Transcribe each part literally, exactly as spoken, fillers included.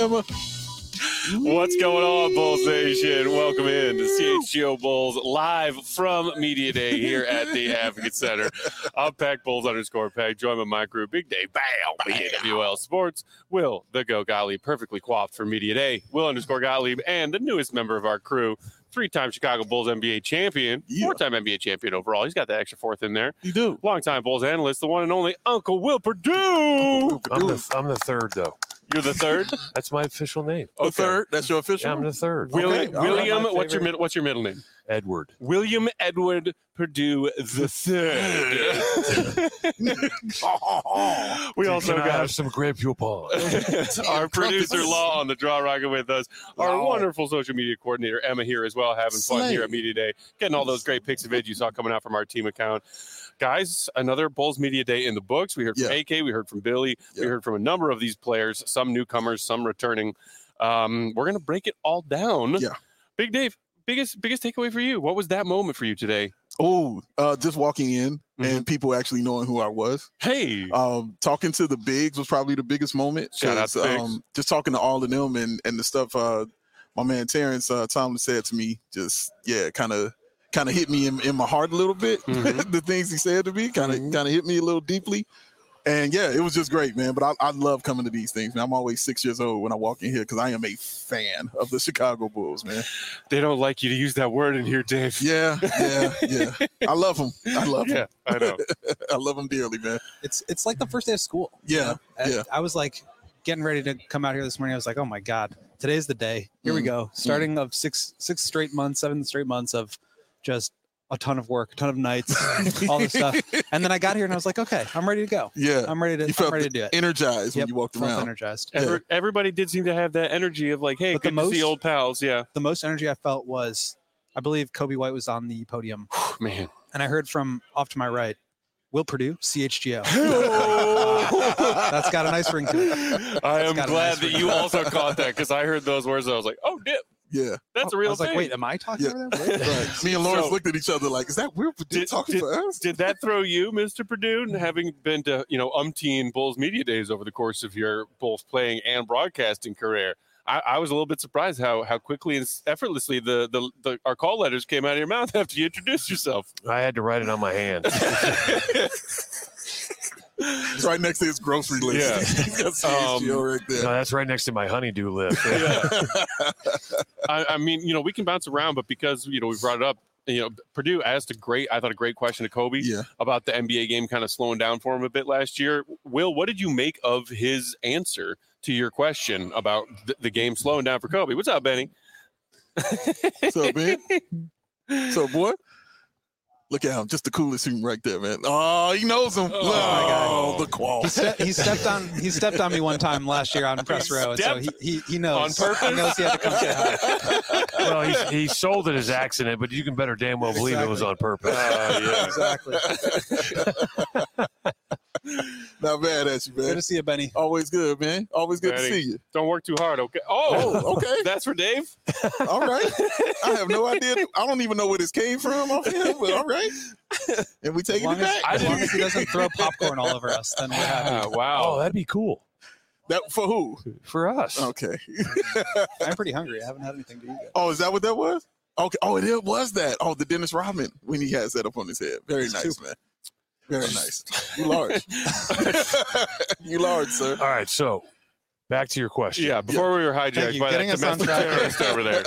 Emma. What's going on, Bulls Nation? Welcome in to C H G O Bulls live from Media Day here at the Advocate Center. I'm Pack Bulls underscore Pack, joined by my crew, Big Day, Bow, B N W L Sports, Will, the Go Gottlieb, perfectly coiffed for Media Day, Will underscore Gottlieb, and the newest member of our crew, three-time Chicago Bulls N B A champion, yeah. four-time N B A champion overall. He's got that extra fourth in there. You do. Long-time Bulls analyst, the one and only Uncle Will Purdue. I'm the, I'm the third, though. You're the third? That's my official name. Okay. The third? That's your official yeah, I'm the third. William, okay. William right, what's your middle what's your middle name? Edward. William Edward Purdue the third. we also Can I got have some grape pong. Our producer Law on the draw rocket with us. Our wow. wonderful social media coordinator Emma here as well, having fun Slay. here at Media Day, getting all those great pics and vids you saw coming out from our team account. Guys, another Bulls Media Day in the books. We heard from yeah. A K, we heard from Billy, yeah. we heard from a number of these players, some newcomers, some returning. Um, we're going to break it all down. Yeah. Big Dave, biggest biggest takeaway for you. What was that moment for you today? Oh, uh, just walking in mm-hmm. and people actually knowing who I was. Hey. Um, talking to the bigs was probably the biggest moment. Shout out to um, bigs. Just talking to all of them and, and the stuff uh, my man Terrence uh, Tomlin said to me, just, yeah, kind of kind of hit me in, in my heart a little bit. Mm-hmm. The things he said to me kind of mm-hmm. kind of hit me a little deeply. And, yeah, it was just great, man. But I, I love coming to these things, man. I'm always six years old when I walk in here because I am a fan of the Chicago Bulls, man. They don't like you to use that word in here, Dave. Yeah, yeah, yeah. I love them. I love them. Yeah, I know. I love them dearly, man. It's it's like the first day of school. Yeah, you know? yeah. I, I was like getting ready to come out here this morning. I was like, oh, my God, today's the day. Here mm. we go. Starting mm. of six six straight months, seven straight months of just a ton of work, a ton of nights, all this stuff. And then I got here and I was like, okay, I'm ready to go. Yeah. I'm ready to, you felt I'm ready to do it. Energized yep, when you walked felt around. energized. Yeah. Every, everybody did seem to have that energy of like, hey, but good the most, to see old pals. Yeah. The most energy I felt was, I believe Kobe White was on the podium. Man. And I heard from off to my right, Will Purdue, C H G O. uh, that's got a nice ring to it. I am glad nice that you also caught that because I heard those words and I was like, oh, dip. Yeah. That's a real I was thing. like, wait, am I talking yeah. over there? Right. Me and Lawrence so, looked at each other like, is that Will Purdue did, talking did, to us? Did that throw you, Mister Purdue, having been to, you know, umpteen Bulls Media Days over the course of your Bulls playing and broadcasting career? I, I was a little bit surprised how how quickly and effortlessly the, the, the our call letters came out of your mouth after you introduced yourself. I had to write it on my hand. It's right next to his grocery list. Yeah. That's um, right there. No, that's right next to my honeydew list. Yeah. I, I mean, you know, we can bounce around, but because, you know, we brought it up, you know, Purdue asked a great, I thought a great question to Kobe yeah. about the N B A game kind of slowing down for him a bit last year. Will, what did you make of his answer to your question about th- the game slowing down for Kobe? What's up, Benny? What's up, man? What's up, boy? Look at him, just the coolest human right there, man. Oh, he knows him. Oh, oh my God. The qual. He, ste- he stepped on. He stepped on me one time last year on press row, and so he, he he knows. On purpose? He knows he had to come say hi. Well, he, he sold it as accident, but you can better damn well believe exactly. it was on purpose. Uh, yeah. Exactly. Not bad at you, man. Good to see you, Benny. Always good, man. Always good Benny, to see you. Don't work too hard, okay? Oh, oh okay. That's for Dave? All right. I have no idea. I don't even know where this came from off him, but all right. And we taking it back. As, as long as he doesn't throw popcorn all over us, then we're happy. Wow. Oh, that'd be cool. That for who? For us. Okay. I'm pretty hungry. I haven't had anything to eat yet. Oh, is that what that was? Okay. Oh, it was that. Oh, the Dennis Rodman when he has that up on his head. Very nice, Super. man. Very nice. You large. You large, sir. All right, so back to your question. Yeah, before yeah. we were hijacked by Getting that domestic terrorist over there.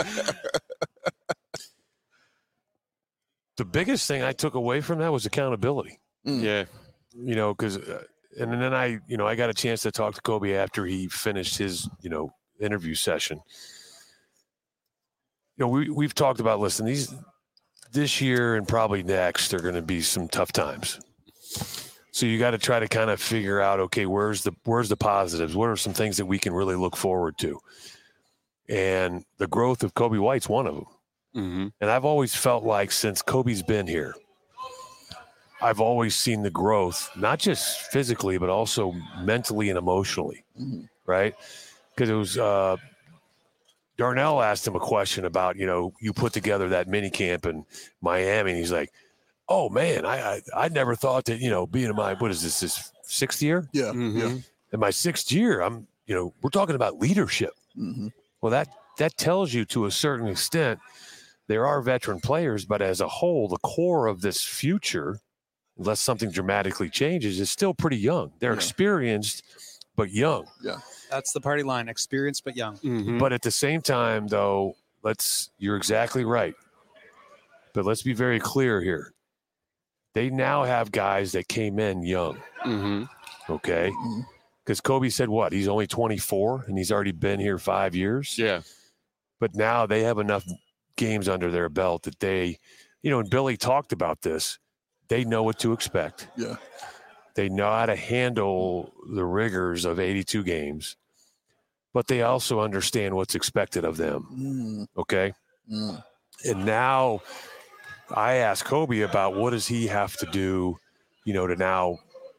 The biggest thing I took away from that was accountability. Mm. Yeah. You know, because, uh, and then I, you know, I got a chance to talk to Kobe after he finished his, you know, interview session. You know, we, we've talked about, listen, these, this year and probably next are going to be some tough times. So you got to try to kind of figure out, okay, where's the, where's the positives? What are some things that we can really look forward to? And the growth of Kobe White's one of them. Mm-hmm. And I've always felt like since Kobe's been here, I've always seen the growth, not just physically, but also mentally and emotionally, mm-hmm. right? Because it was uh, Darnell asked him a question about, you know, you put together that mini camp in Miami, and he's like, oh, man, I I, I never thought that, you know, being in my, what is this, this sixth year? Yeah, mm-hmm. yeah. In my sixth year, I'm, you know, we're talking about leadership. Mm-hmm. Well, that that tells you to a certain extent there are veteran players, but as a whole, the core of this future, unless something dramatically changes, is still pretty young. They're Yeah. experienced, but young. Yeah. That's the party line: experienced but young. Mm-hmm. But at the same time, though, let's you're exactly right. But let's be very clear here. They now have guys that came in young. Mm-hmm. Okay. Because Kobe said what? He's only twenty-four and he's already been here five years. Yeah. But now they have enough games under their belt that they, you know, and Billy talked about this. They know what to expect. Yeah. They know how to handle the rigors of eighty-two games, but they also understand what's expected of them. Mm. Okay. Mm. And now I asked Kobe about what does he have to do, you know, to now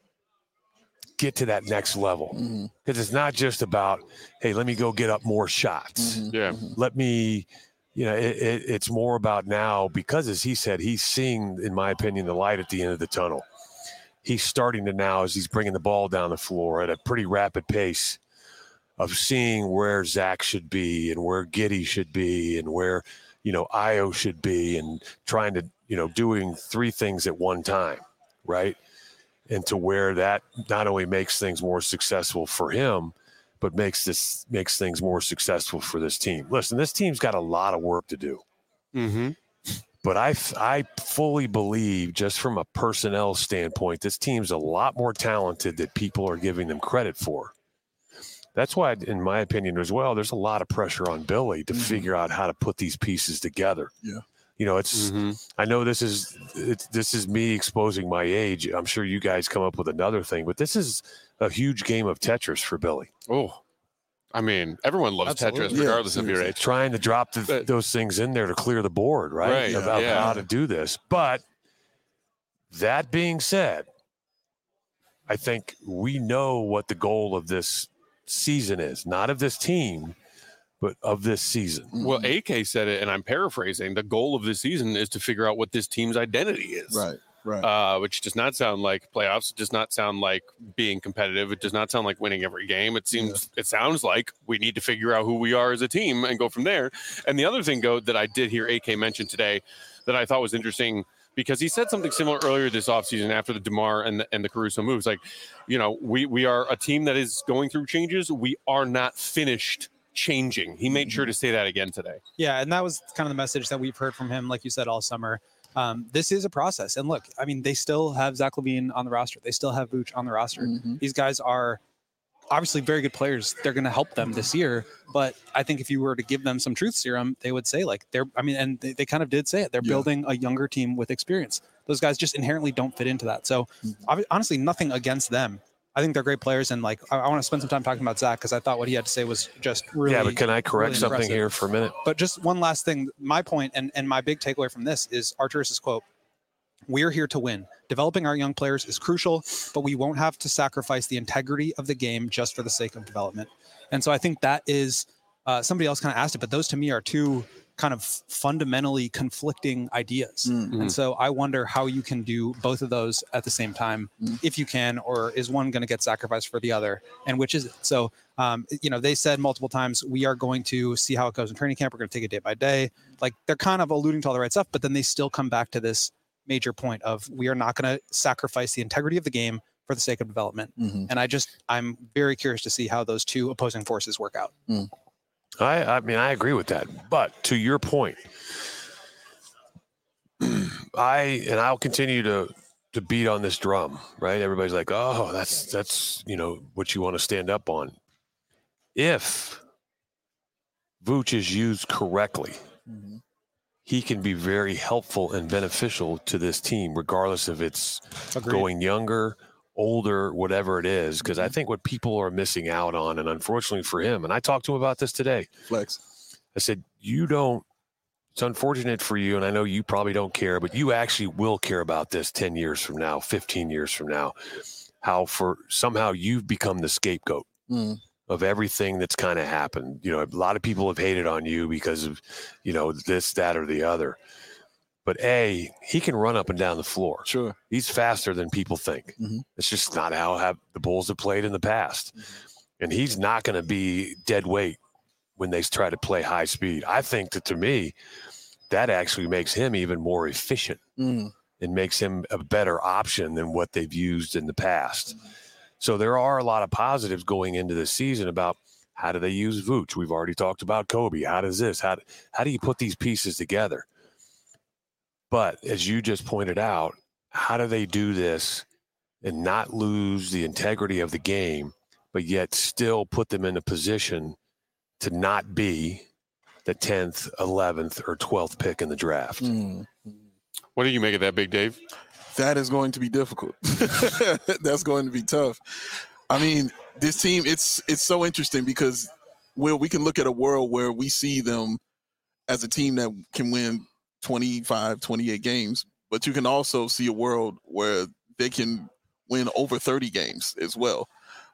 get to that next level. Mm-hmm. Because it's not just about, hey, let me go get up more shots. Mm-hmm. Yeah. Let me, you know, it, it, it's more about now because, as he said, he's seeing, in my opinion, the light at the end of the tunnel. He's starting to now, as he's bringing the ball down the floor at a pretty rapid pace, of seeing where Zach should be and where Giddey should be and where, you know, Io should be, and trying to, you know, doing three things at one time, right? And to where that not only makes things more successful for him, but makes this makes things more successful for this team. Listen, this team's got a lot of work to do. Mm-hmm. But I, I fully believe, just from a personnel standpoint, this team's a lot more talented than people are giving them credit for. That's why, in my opinion as well, there's a lot of pressure on Billy to Mm-hmm. figure out how to put these pieces together. Yeah. You know, it's, Mm-hmm. I know this is, it's, this is me exposing my age. I'm sure you guys come up with another thing, but this is a huge game of Tetris for Billy. Oh, I mean, everyone loves Absolutely. Tetris, regardless Yeah, of your seriously. age. Trying to drop the, But- those things in there to clear the board, right? Right, About yeah. how to do this. But that being said, I think we know what the goal of this season is, not of this team, but of this season. Well, A K said it, and I'm paraphrasing. The goal of this season is to figure out what this team's identity is. Right. Right. Uh, which does not sound like playoffs. It does not sound like being competitive. It does not sound like winning every game. It seems, it sounds like we need to figure out who we are as a team and go from there. And the other thing, Go, that I did hear A K mention today that I thought was interesting, because he said something similar earlier this offseason after the DeMar and the, and the Caruso moves. Like, you know, we, we are a team that is going through changes. We are not finished changing. He made sure to say that again today. Yeah, and that was kind of the message that we've heard from him, like you said, all summer. Um, this is a process. And look, I mean, they still have Zach LaVine on the roster. They still have Vooch on the roster. Mm-hmm. These guys are obviously very good players. They're going to help them this year. But I think if you were to give them some truth serum, they would say, like, they're, I mean, and they, they kind of did say it. They're Yeah. building a younger team with experience. Those guys just inherently don't fit into that. So ob- honestly, nothing against them. I think they're great players. And like, I, I want to spend some time talking about Zach, because I thought what he had to say was just really, yeah, but can I correct really something impressive. here for a minute? But just one last thing, my point and, and my big takeaway from this is Arturus's quote: "We're here to win. Developing our young players is crucial, but we won't have to sacrifice the integrity of the game just for the sake of development." And so I think that is, uh, somebody else kind of asked it, but those to me are two kind of fundamentally conflicting ideas. Mm-hmm. And so I wonder how you can do both of those at the same time, Mm. if you can, or is one going to get sacrificed for the other, and which is it? So, um, you know, they said multiple times, we are going to see how it goes in training camp. We're going to take it day by day. Like, they're kind of alluding to all the right stuff, but then they still come back to this major point of, we are not going to sacrifice the integrity of the game for the sake of development. Mm-hmm. And I just, I'm very curious to see how those two opposing forces work out. I, I mean, I agree with that. But to your point, I and I'll continue to to beat on this drum, right? Everybody's like, "Oh, that's that's you know what you want to stand up on." If Vooch is used correctly, Mm-hmm. he can be very helpful and beneficial to this team, regardless if it's Agreed. going younger, older, whatever it is. Because I think what people are missing out on, and unfortunately for him, and I talked to him about this today. Flex. I said, you don't, it's unfortunate for you, and I know you probably don't care, but you actually will care about this ten years from now, fifteen years from now, how for somehow you've become the scapegoat Mm. of everything that's kind of happened. You know, a lot of people have hated on you because of, you know, this, that, or the other. But A, he can run up and down the floor. Sure. He's faster than people think. Mhm. It's just not how have the Bulls have played in the past. And he's not going to be dead weight when they try to play high speed. I think that, to me, that actually makes him even more efficient Mm. and makes him a better option than what they've used in the past. So there are a lot of positives going into the season about how do they use Vooch. We've already talked about Kobe. How does this? How, how do you put these pieces together? But as you just pointed out, how do they do this and not lose the integrity of the game, but yet still put them in a position to not be the tenth, eleventh, or twelfth pick in the draft? Mm. What do you make of that, Big Dave? That is going to be difficult. That's going to be tough. I mean, this team, it's it's so interesting because where we can look at a world where we see them as a team that can win twenty-five, twenty-eight games, but you can also see a world where they can win over thirty games as well.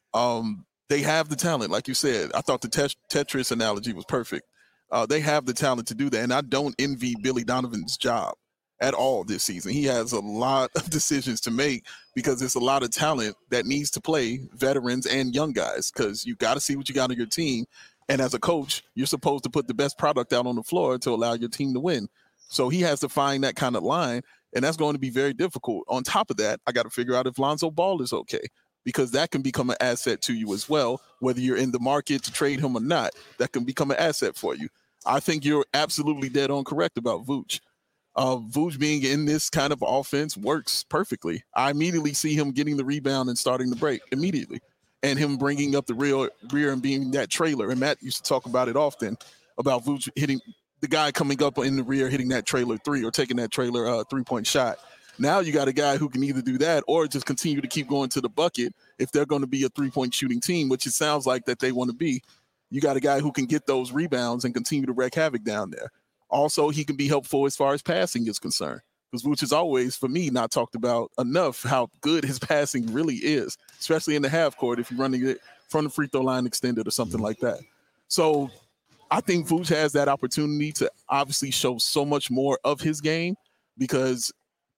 Um, they have the talent, like you said. I thought the tet- Tetris analogy was perfect. Uh, they have the talent to do that, and I don't envy Billy Donovan's job at all this season. He has a lot of decisions to make because it's a lot of talent that needs to play, veterans and young guys, because you got to see what you got on your team. And as a coach, you're supposed to put the best product out on the floor to allow your team to win. So he has to find that kind of line, and that's going to be very difficult. On top of that, I got to figure out if Lonzo Ball is okay, because that can become an asset to you as well, whether you're in the market to trade him or not. That can become an asset for you. I think you're absolutely dead on correct about Vooch. Uh, Vooch being in this kind of offense works perfectly. I immediately see him getting the rebound and starting the break immediately, and him bringing up the rear, rear and being that trailer. And Matt used to talk about it often, about Vooch hitting the guy coming up in the rear, hitting that trailer three or taking that trailer uh, three-point shot. Now you got a guy who can either do that or just continue to keep going to the bucket if they're going to be a three-point shooting team, which it sounds like that they want to be. You got a guy who can get those rebounds and continue to wreak havoc down there. Also, he can be helpful as far as passing is concerned, because Vooch is always, for me, not talked about enough how good his passing really is, especially in the half court if you're running it from the free throw line extended or something like that. So I think Vooch has that opportunity to obviously show so much more of his game because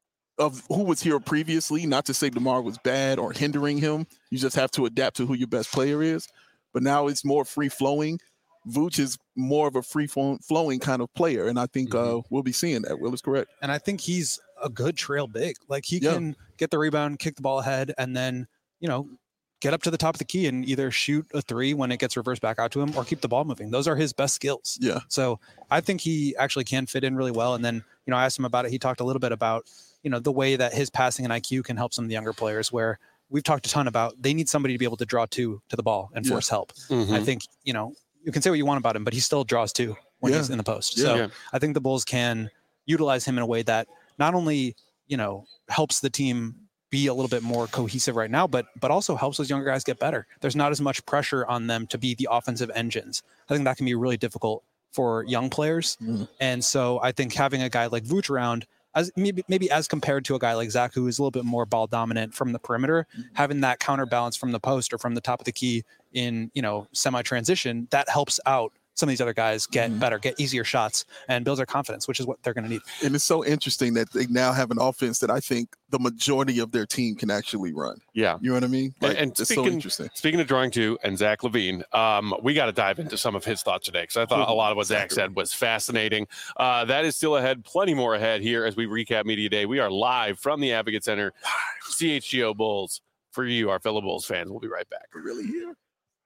of who was here previously. Not to say DeMar was bad or hindering him. You just have to adapt to who your best player is. But now it's more free-flowing. Vooch is more of a free-flowing kind of player, and I think mm-hmm. uh, we'll be seeing that. Will is correct. And I think he's a good trail big. Like, he yeah. can get the rebound, kick the ball ahead, and then, you know, get up to the top of the key and either shoot a three when it gets reversed back out to him or keep the ball moving. Those are his best skills. Yeah. So I think he actually can fit in really well. And then, you know, I asked him about it. He talked a little bit about, you know, the way that his passing and I Q can help some of the younger players, where we've talked a ton about they need somebody to be able to draw two to the ball and force yeah. help. Mm-hmm. I think, you know, you can say what you want about him, but he still draws two when yeah. he's in the post. Yeah. So yeah. I think the Bulls can utilize him in a way that not only, you know, helps the team be a little bit more cohesive right now, but but also helps those younger guys get better. There's not as much pressure on them to be the offensive engines. I think that can be really difficult for young players. Mm. And so I think having a guy like Vooch around, as maybe maybe as compared to a guy like Zach, who is a little bit more ball dominant from the perimeter, mm. having that counterbalance from the post or from the top of the key in, you know, semi-transition, that helps out some of these other guys get mm. better, get easier shots, and builds their confidence, which is what they're going to need. And it's so interesting that they now have an offense that I think the majority of their team can actually run. Yeah. You know what I mean? Like, and it's speaking, so interesting. Speaking of drawing two and Zach LaVine, um, we got to dive into some of his thoughts today, because I thought a lot of what Zach said was fascinating. Uh, that is still ahead, plenty more ahead here as we recap Media Day. We are live from the Advocate Center, C H G O Bulls, for you, our fellow Bulls fans. We'll be right back. We're really here.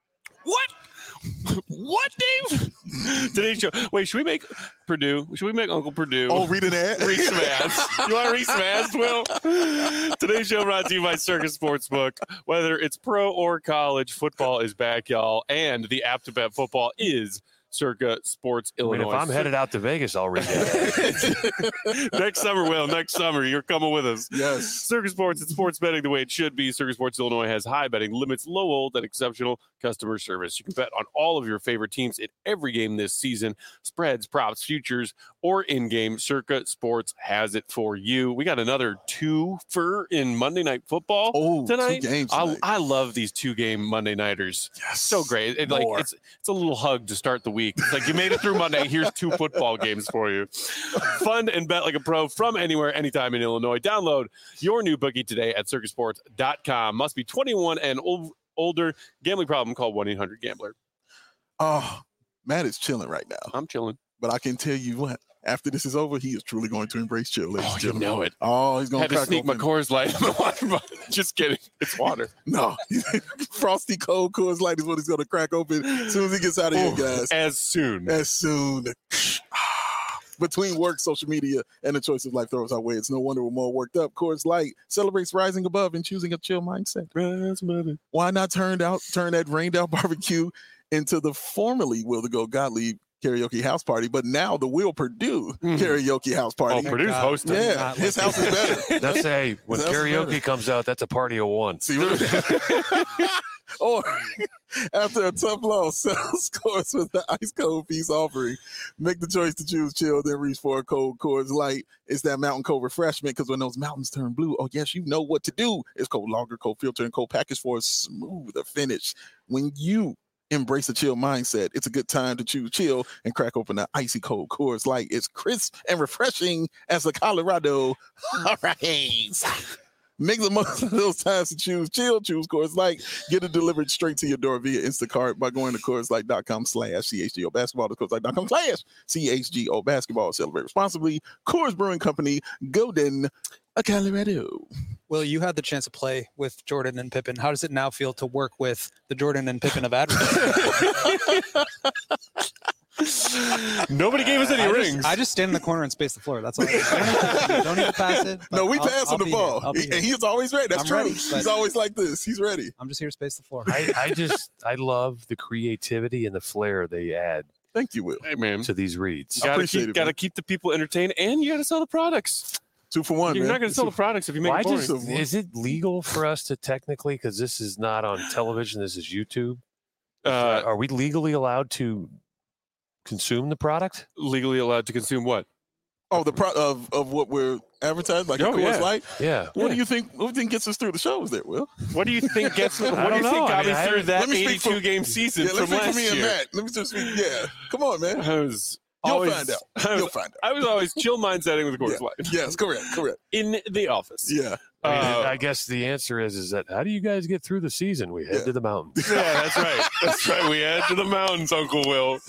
What? What, Dave? Today's show. Wait, should we make Purdue? Should we make Uncle Purdue? Oh, read an ad? Read some ads. You want to read some ads, Will? Today's show brought to you by Circus Sportsbook. Whether it's pro or college, football is back, y'all. And the app to bet football is Circa Sports Illinois. I mean, if I'm headed out to Vegas, I'll read that. Next summer, Will. Next summer, you're coming with us. Yes. Circa Sports, it's sports betting the way it should be. Circa Sports Illinois has high betting limits, low hold, and exceptional customer service. You can bet on all of your favorite teams in every game this season. Spreads, props, futures, or in-game. Circa Sports has it for you. We got another two-fer in Monday Night Football oh, tonight. Two games tonight. I, I love these two-game Monday Nighters. Yes. So great. It, like it's it's a little hug to start the week. It's like you made it through Monday. Here's two football games for you. Fun and bet like a pro from anywhere, anytime in Illinois. Download your new bookie today at circus sports dot com. Must be twenty-one and old, older. Gambling problem, call one eight hundred gambler. Oh, Matt is chilling right now. I'm chilling. But I can tell you what, after this is over, he is truly going to embrace chill. Ladies Oh, and you gentlemen. know it. Oh, he's going Had to sneak my Coors Light in the water bottle. Just kidding. It's water. No, frosty cold Coors Light is what he's going to crack open as soon as he gets out of here, guys. As soon. As soon. Between work, social media, and the choice of life throws our way. It's no wonder we're more worked up. Coors Light celebrates rising above and choosing a chill mindset. Why not turn out turn that rained out barbecue into the formerly Will to Go Gottlieb karaoke house party, but now the Will Purdue Mhm. karaoke house party. Oh, Purdue's hosting. Yeah, Not his like house is better. That's a when That's karaoke better. comes out, that's a party of one. See, or after a tough loss, settle scores with the ice cold peace offering. Make the choice to choose chill, then reach for a cold Coors Light. It's that mountain cold refreshment because when those mountains turn blue, oh yes, you know what to do. It's cold lager, cold filter, and cold package for a smoother finish. When you embrace a chill mindset, it's a good time to choose chill and crack open an icy cold Coors Light. It's crisp and refreshing as the Colorado Hurricanes. Make the most of those times to choose chill, choose Coors Light. Get it delivered straight to your door via Instacart by going to CoorsLight.com slash CHGO basketball. That's CoorsLight.com slash CHGO basketball. Celebrate responsibly. Coors Brewing Company, Golden, Colorado. Will, you had the chance to play with Jordan and Pippen. How does it now feel to work with the Jordan and Pippen of advertising? Nobody gave us any I rings. just, I just stand in the corner and space the floor. That's all. I do. You don't need to, you don't need to pass it. but No, we I'll- pass I'll him the be here. ball. I'll be He- here. and he's always ready. That's I'm true. ready, He's but- always like this. He's ready. I'm just here to space the floor. I, I just I love the creativity and the flair they add Thank you, Will. Hey, man. to these reads. I Gotta appreciate keep, it, gotta man. keep the people entertained, and you gotta sell the products. Two for one, You're man. not gonna sell the products if you make Why it boring. just, is it legal for us to technically, because this is not on television, this is YouTube, uh, are we legally allowed to consume the product? legally allowed to consume what? Oh, the pro of, of what we're advertising, like Oh, a Coors yeah. Light. Yeah. What do you think? What do you think gets us through the shows there, Will? What do you think gets? What do don't you think know. got I me mean, I- through that let me speak eighty-two for- game season Yeah, from let's speak last for me year? and Matt. Let me just speak. Yeah, come on, man. I was You'll always, find out. I was, You'll find out. I was always chill mindsetting with Coors Light Yes, correct, correct. in the office. Yeah, I, mean, Uh, I guess the answer is is that how do you guys get through the season? We head Yeah. to the mountains. Yeah, that's right. That's right. We head to the mountains, Uncle Will.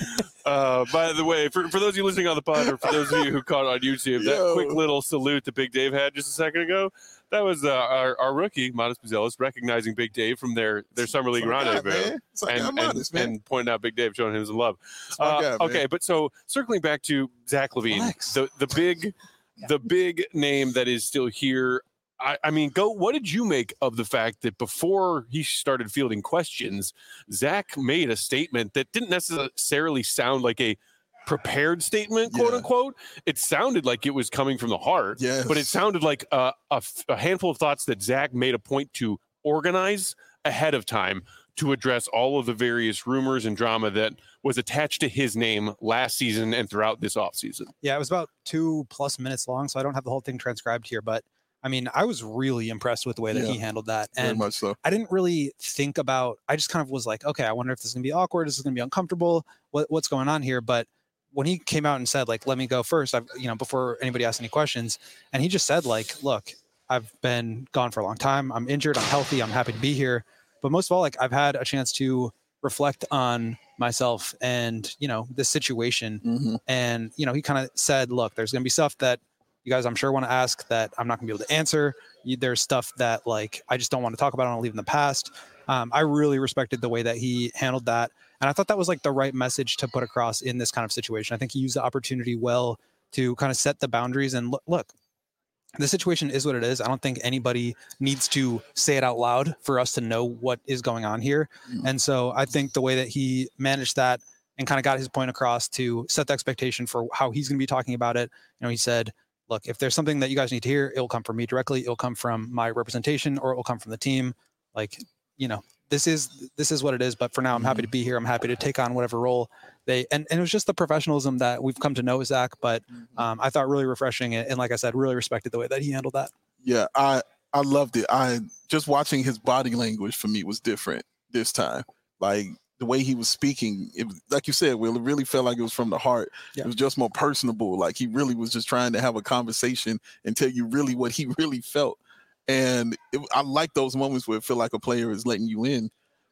Uh, by the way, for, for those of you listening on the pod, or for those of you who caught it on YouTube, that Yo. quick little salute that Big Dave had just a second ago, that was uh, our, our rookie, Modest Buzelis, recognizing Big Dave from their, their Summer League That's my guy, rendezvous. man. That's my guy, And, and, Modest, man. and pointing out Big Dave, showing him some love. That's my Uh, guy, man. okay, but so circling back to Zach Levine, Relax. the the big, the big name that is still here. I, I mean, go. What did you make of the fact that before he started fielding questions, Zach made a statement that didn't necessarily sound like a prepared statement, quote Yeah. unquote? It sounded like it was coming from the heart, Yes. but it sounded like a, a f- a handful of thoughts that Zach made a point to organize ahead of time to address all of the various rumors and drama that was attached to his name last season and throughout this offseason. Yeah, it was about two plus minutes long, so I don't have the whole thing transcribed here. But I mean, I was really impressed with the way that Yeah. he handled that, Very and much so. I didn't really think about. I just kind of was like, okay, I wonder if this is gonna be awkward. Is this gonna be uncomfortable? What what's going on here? But when he came out and said, like, let me go first, I've you know before anybody asked any questions, and he just said, like, look, I've been gone for a long time. I'm injured. I'm healthy. I'm happy to be here. But most of all, like, I've had a chance to reflect on myself and you know this situation. Mhm. And you know he kind of said, look, there's gonna be stuff that you guys I'm sure want to ask that I'm not gonna be able to answer. You, there's stuff that like I just don't want to talk about. I want to leave in the past. Um, I really respected the way that he handled that, and I thought that was like the right message to put across in this kind of situation. I think he used the opportunity well to kind of set the boundaries and look. look the situation is what it is. I don't think anybody needs to say it out loud for us to know what is going on here. Mm. And so I think the way that he managed that and kind of got his point across to set the expectation for how he's going to be talking about it. You know, he said, look, if there's something that you guys need to hear, it'll come from me directly. It'll come from my representation, or it will come from the team. Like, you know, this is, this is what it is. But for now, I'm happy to be here. I'm happy to take on whatever role they, and, and it was just the professionalism that we've come to know Zach, but um, I thought really refreshing. And, and like I said, really respected the way that he handled that. Yeah, I I loved it. I just watching his body language for me was different this time. Like the way he was speaking, it was, like you said, Will, it really felt like it was from the heart. Yeah. It was just more personable. Like he really was just trying to have a conversation and tell you really what he really felt. And it, I like those moments where it feel like a player is letting you in.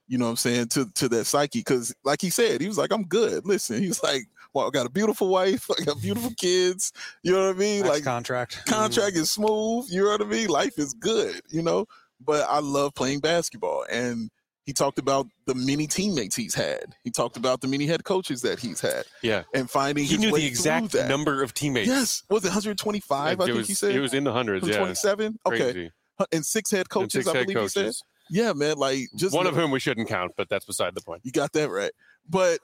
you know what I'm saying, to, to that psyche. Because like he said, he was like, I'm good. Listen, he was like, well, I got a beautiful wife. I got beautiful kids. You know what I mean? Max like contract. Contract is smooth. You know what I mean? Life is good, you know? But I love playing basketball. And he talked about the many teammates he's had. He talked about the many head coaches that he's had. Yeah. And finding he his knew way the exact through that. number of teammates. Yes. Was it one hundred twenty-five, I it think was, he said? It was in the hundreds, yeah. twenty-seven? Okay. Crazy. And six head coaches, and six I head believe coaches. he said. Yeah, man. Like just one of whom we shouldn't count, but that's beside the point. You got that right. But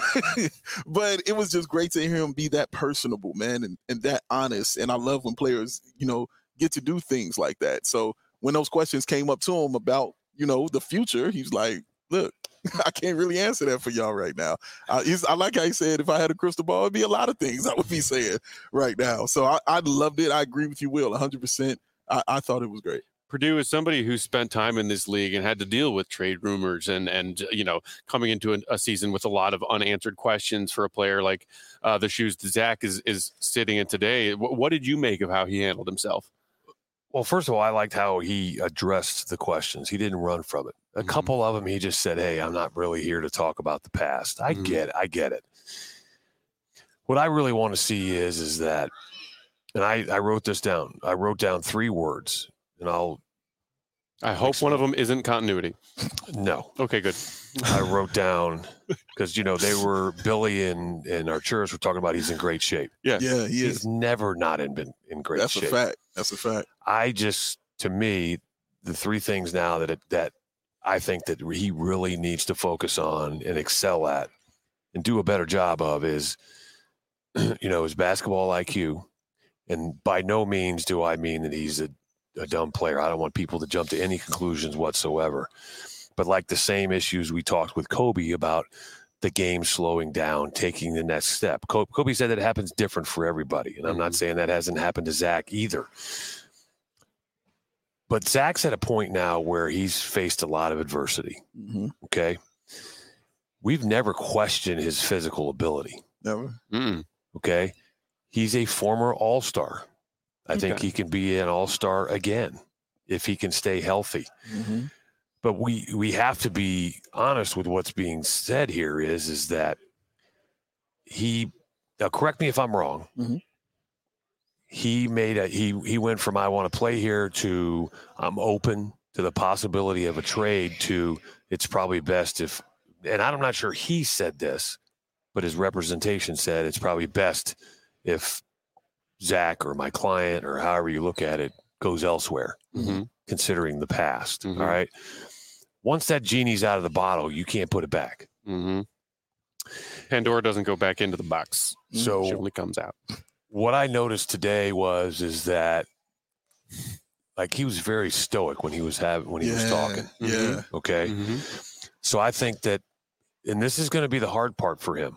but it was just great to hear him be that personable, man, and, and that honest. And I love when players, you know, get to do things like that. So when those questions came up to him about, you know, the future, he's like, look, I can't really answer that for y'all right now. Uh, he's, I like how he said, if I had a crystal ball, it'd be a lot of things I would be saying right now. So I, I loved it. I agree with you, Will, one hundred percent. I, I thought it was great. Purdue is somebody who spent time in this league and had to deal with trade rumors and, and you know, coming into a, a season with a lot of unanswered questions for a player like uh, the shoes that Zach is, is sitting in today. W- what did you make of how he handled himself? Well, first of all, I liked how he addressed the questions. He didn't run from it. A Mm-hmm. couple of them, he just said, hey, I'm not really here to talk about the past. I Mhm. get it. I get it. What I really want to see is, is that, and I, I wrote this down. I wrote down three words, and I'll. I hope one of them isn't continuity. No. Okay, good. I wrote down, because, you know, they were, Billy and, and Arturas were talking about he's in great shape. Yeah. Yeah, he He's is. never not in, been in great That's shape. a fact. That's a fact. I just, to me, the three things now that it, that I think that he really needs to focus on and excel at and do a better job of is, you know, his basketball I Q. And by no means do I mean that he's a, a dumb player. I don't want people to jump to any conclusions whatsoever. But like the same issues we talked with Kobe about the game slowing down, taking the next step. Kobe said that it happens different for everybody. And I'm not saying that hasn't happened to Zach either. But Zach's at a point now where he's faced a lot of adversity. Mm-hmm. Okay. We've never questioned his physical ability. Never. Mm-mm. Okay. He's a former all-star. I think Okay. he can be an all-star again if he can stay healthy. Mm-hmm. But we we have to be honest with what's being said here is, is that he, now correct me if I'm wrong. Mm-hmm. He made a, he, he went from, I want to play here to I'm open to the possibility of a trade to it's probably best if, and I'm not sure he said this, but his representation said it's probably best if Zach or my client or however you look at it goes elsewhere, Mm-hmm. considering the past. Mhm. All right. Once that genie's out of the bottle, you can't put it back. Mm-hmm. Pandora doesn't go back into the box. So She only comes out. what I noticed today was, is that like he was very stoic when he was having, when he yeah, was talking. Yeah. Okay. Mm-hmm. So I think that, and this is going to be the hard part for him.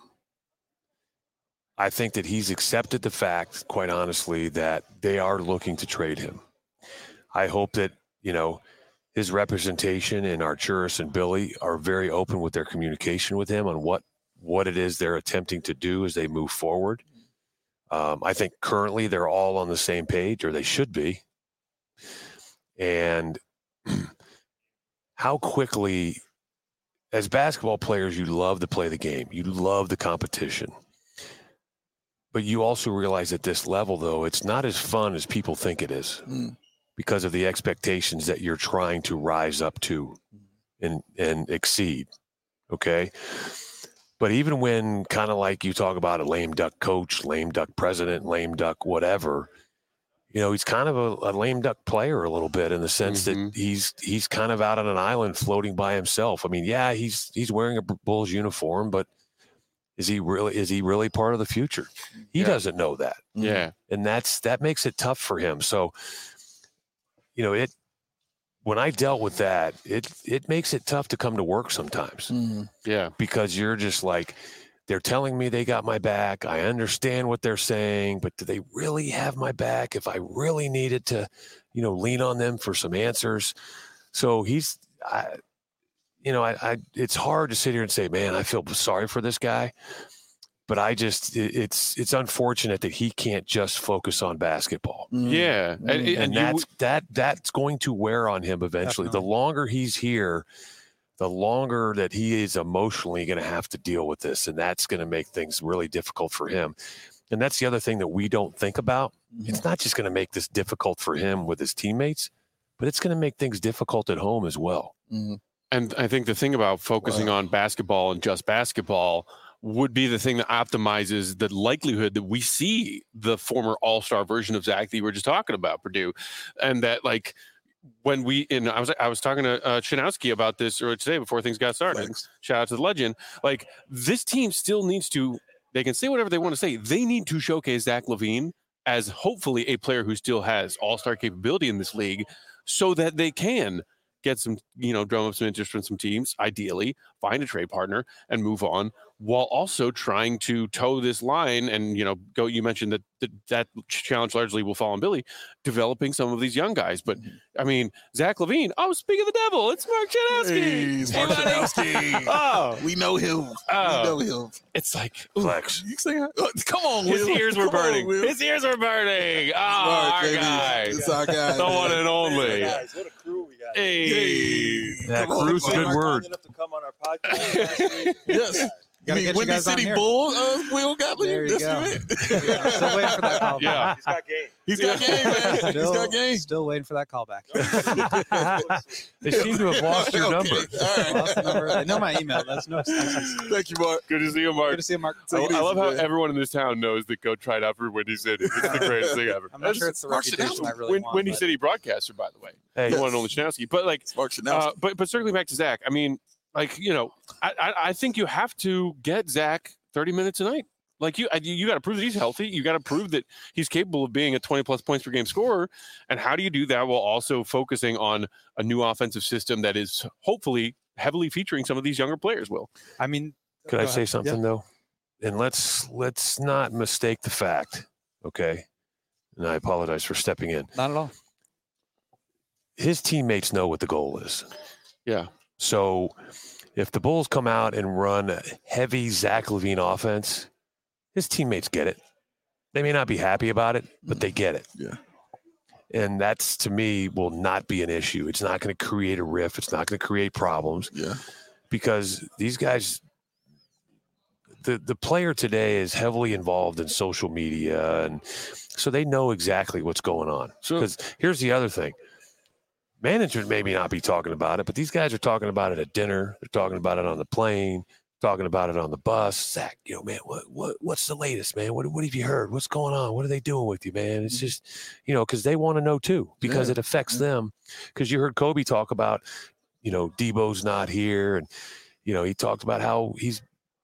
I think that he's accepted the fact, quite honestly, that they are looking to trade him. I hope that, you know, his representation and Arturas and Billy are very open with their communication with him on what, what it is they're attempting to do as they move forward. Um, I think currently they're all on the same page, or they should be. And how quickly, as basketball players, you love to play the game. You love the competition. But you also realize at this level, though, it's not as fun as people think it is Mm. because of the expectations that you're trying to rise up to and, and exceed. Okay. But even when kind of like you talk about a lame duck coach, lame duck president, lame duck, whatever, you know, he's kind of a, a lame duck player a little bit in the sense Mhm. that he's, he's kind of out on an island floating by himself. I mean, yeah, he's, he's wearing a Bulls uniform, but is he really, is he really part of the future? He Yeah. doesn't know that. Yeah. And that's, that makes it tough for him. So, you know, it, when I dealt with that, it, it makes it tough to come to work sometimes Mm. Yeah. because you're just like, they're telling me they got my back. I understand what they're saying, but do they really have my back if I really needed to, you know, lean on them for some answers? So he's, I, you know, I, I, it's hard to sit here and say, man, I feel sorry for this guy, but I just, it, it's, it's unfortunate that he can't just focus on basketball. Mm. Yeah. And, and, And you- that's, that, that's going to wear on him eventually. Definitely. The longer he's here, the longer that he is emotionally going to have to deal with this, and that's going to make things really difficult for him. And that's the other thing that we don't think about. Mm-hmm. It's not just going to make this difficult for him with his teammates, but it's going to make things difficult at home as well. Mm-hmm. And I think the thing about focusing wow. on basketball and just basketball would be the thing that optimizes the likelihood that we see the former all-star version of Zach that you were just talking about, Purdue. And that, like, when we, and I was I was talking to uh, Shinowski about this earlier today before things got started. Thanks. Shout out to the legend. Like, this team still needs to, they can say whatever they want to say. They need to showcase Zach LaVine as hopefully a player who still has all-star capability in this league so that they can get some, you know, drum up some interest from some teams, ideally find a trade partner and move on, while also trying to toe this line. And, you know, go, you mentioned that that, that challenge largely will fall on Billy, developing some of these young guys. But I mean, Zach LaVine, oh, speak of the devil, it's Mark Shanowski. Hey, it's Mark Shanowski. Oh, we know him. Oh, we know him. It's like, flex. You say, oh, come on, His Will. ears were come burning. On, His ears were burning. Oh, Mark, our baby. guy. It's our guy. The one and only. Hey, guys, what a crew we got. Hey. Hey. That Come on, crew's a good Mark. word. Enough to come on our podcast last week. Yes. You Gotta mean get you Windy guys on City here. Bull, uh, Will Gottlieb? There you That's go. it. Yeah, still waiting for that call. Yeah. He's got game. He's got game, man. He's Still, got game. still waiting for that call back. They seem to have lost your Okay. number. All right. Lost the number. They know my email. That's no excuses. Thank you, Mark. Good to see you, Mark. Good to see you, Mark. I, Take it I love easy, how man. everyone in this town knows that Go tried out for Windy City. It's the greatest thing ever. I'm not sure it's the Mark reputation I Shanowski. really Win, want. Windy but- City broadcaster, by the way. Hey, The one and only Shinowski. But like, It's Mark Shanowski. uh, but but circling back to Zach, I mean, like, you know, I, I I think you have to get Zach thirty minutes a night. Like you, you got to prove that he's healthy. You got to prove that he's capable of being a twenty plus points per game scorer. And how do you do that while also focusing on a new offensive system that is hopefully heavily featuring some of these younger players? Will I mean, could go I say ahead. something Yeah. though? And let's let's not mistake the fact, okay? And I apologize for stepping in. Not at all. His teammates know what the goal is. Yeah. So if the Bulls come out and run a heavy Zach LaVine offense, his teammates get it. They may not be happy about it, but they get it. Yeah. And that's, to me, will not be an issue. It's not going to create a rift. It's not going to create problems Yeah. because these guys, the, the player today is heavily involved in social media. And so they know exactly what's going on. Sure. Because here's the other thing. Management may not be talking about it, but these guys are talking about it at dinner. They're talking about it on the plane, talking about it on the bus. Zach, you know, man, what what what's the latest, man? What what have you heard? What's going on? What are they doing with you, man? It's just, you know, because they want to know too, because Yeah. it affects Yeah. them. Because you heard Kobe talk about, you know, Debo's not here, and you know, he talked about how he's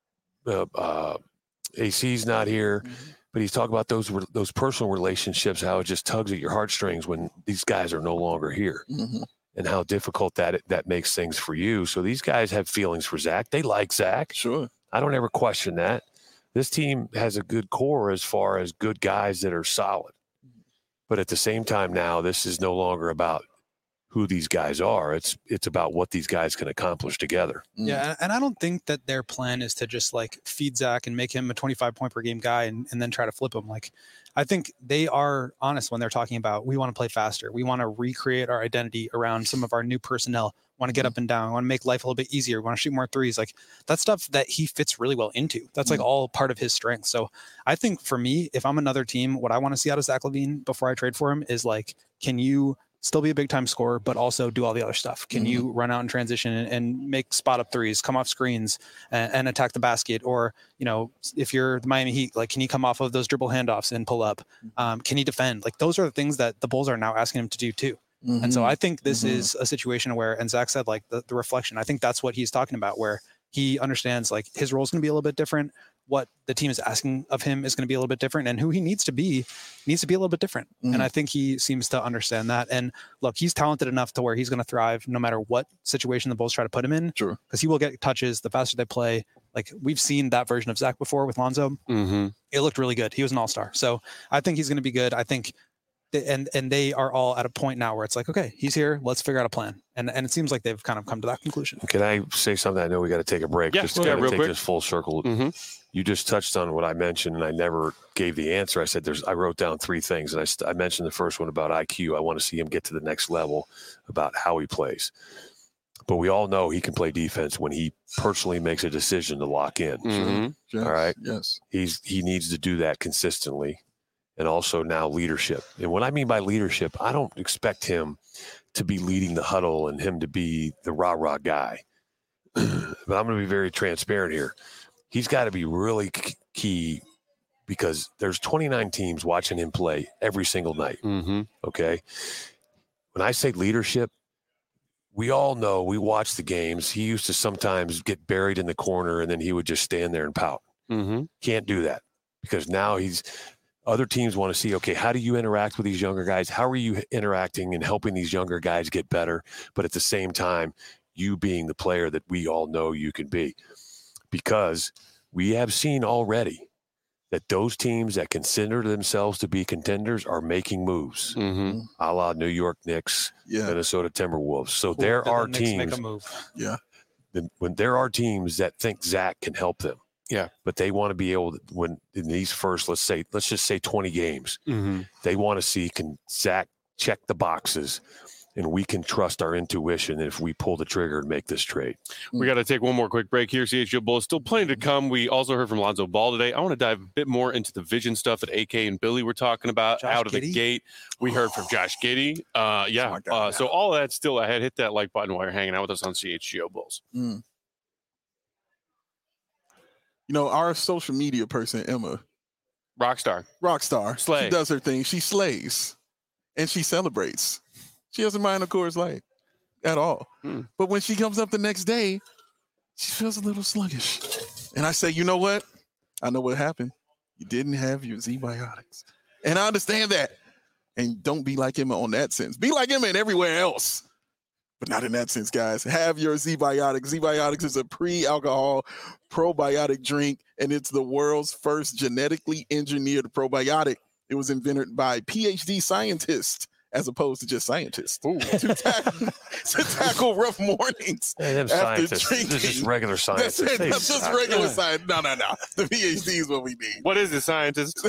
uh, uh, A C's not here. Mm-hmm. But he's talking about those those personal relationships, how it just tugs at your heartstrings when these guys are no longer here, Mm-hmm. and how difficult that that makes things for you. So these guys have feelings for Zach. They like Zach. Sure. I don't ever question that. This team has a good core as far as good guys that are solid. But at the same time now, this is no longer about who these guys are. It's it's about what these guys can accomplish together. Yeah, and- and I don't think that their plan is to just like feed Zach and make him a twenty-five point per game guy and, and then try to flip him. Like, I think they are honest when they're talking about we want to play faster. We want to recreate our identity around some of our new personnel. Want to get up and down. Want to make life a little bit easier. Want to shoot more threes. Like that's stuff that he fits really well into. That's like all part of his strength. So I think for me, if I'm another team, what I want to see out of Zach LaVine before I trade for him is like, can you still be a big time scorer, but also do all the other stuff? Can Mhm. you run out in transition and, and make spot up threes, come off screens and, and attack the basket? Or, you know, if you're the Miami Heat, like, can he come off of those dribble handoffs and pull up? Um, can he defend? Like those are the things that the Bulls are now asking him to do too. Mm-hmm. And so I think this Mhm. is a situation where, and Zach said, like the, the reflection, I think that's what he's talking about, where he understands like his role is going to be a little bit different. What the team is asking of him is going to be a little bit different, and who he needs to be needs to be a little bit different. Mhm. And I think he seems to understand that. And look, he's talented enough to where he's going to thrive no matter what situation the Bulls try to put him in. Sure. Because he will get touches the faster they play. Like we've seen that version of Zach before with Lonzo. Mm-hmm. It looked really good. He was an all-star. So I think he's going to be good. I think th- and and they are all at a point now where it's like, okay, he's here. Let's figure out a plan. And and it seems like they've kind of come to that conclusion. Can I say something? I know we got to take a break. Yeah, just to go ahead, kind of real take quick. this full circle. Mhm. You just touched on what I mentioned, and I never gave the answer. I said there's. I wrote down three things, and I, st- I mentioned the first one about I Q. I want to see him get to the next level about how he plays. but we all know he can play defense when he personally makes a decision to lock in. Mhm. Yes, All right. Yes. He's he needs to do that consistently, and also now leadership. And what I mean by leadership, I don't expect him to be leading the huddle and him to be the rah rah guy. But I'm going to be very transparent here. He's got to be really key because there's twenty-nine teams watching him play every single night. Mm-hmm. Okay. When I say leadership, we all know, we watch the games. He used to sometimes get buried in the corner and then he would just stand there and pout. Mm-hmm. Can't do that because now he's other teams want to see, okay, how do you interact with these younger guys? How are you interacting and helping these younger guys get better? But at the same time, you being the player that we all know you can be, because we have seen already that those teams that consider themselves to be contenders are making moves, Mm-hmm. a la New York Knicks, Yeah. Minnesota Timberwolves. So Cool. there Did the are Knicks teams, make a move. Yeah. then- when there are teams that think Zach can help them. Yeah. But they want to be able to, when in these first, let's say, let's just say twenty games, Mm-hmm. they want to see, can Zach check the boxes and we can trust our intuition if we pull the trigger and make this trade. We got to take one more quick break here. C H G O Bulls still plenty to come. We also heard from Lonzo Ball today. I want to dive a bit more into the vision stuff that A K and Billy were talking about Josh out of the Giddey? gate. We heard from Josh Giddey. Uh, yeah. my God, Uh, so all of that's still ahead. Hit that like button while you're hanging out with us on C H G O Bulls. Mm. You know, our social media person, Emma, Rockstar. rock star, Slay. she does her thing. She slays and she celebrates. She doesn't mind, of course, like at all. Hmm. But when she comes up the next day, she feels a little sluggish. And I say, you know what? I know what happened. You didn't have your Z-Biotics. And I understand that. And don't be like Emma on that sense. Be like Emma in everywhere else. But not in that sense, guys. Have your Z-Biotics. Z-Biotics is a pre-alcohol probiotic drink, and it's the world's first genetically engineered probiotic. It was invented by P H D scientists as opposed to just scientists to tackle, to tackle rough mornings. Hey, them After scientists, this is just drinking. regular That's scientists. it. They That's just suck. regular science. No, no, no. The P H D is what we need. What is it, scientist?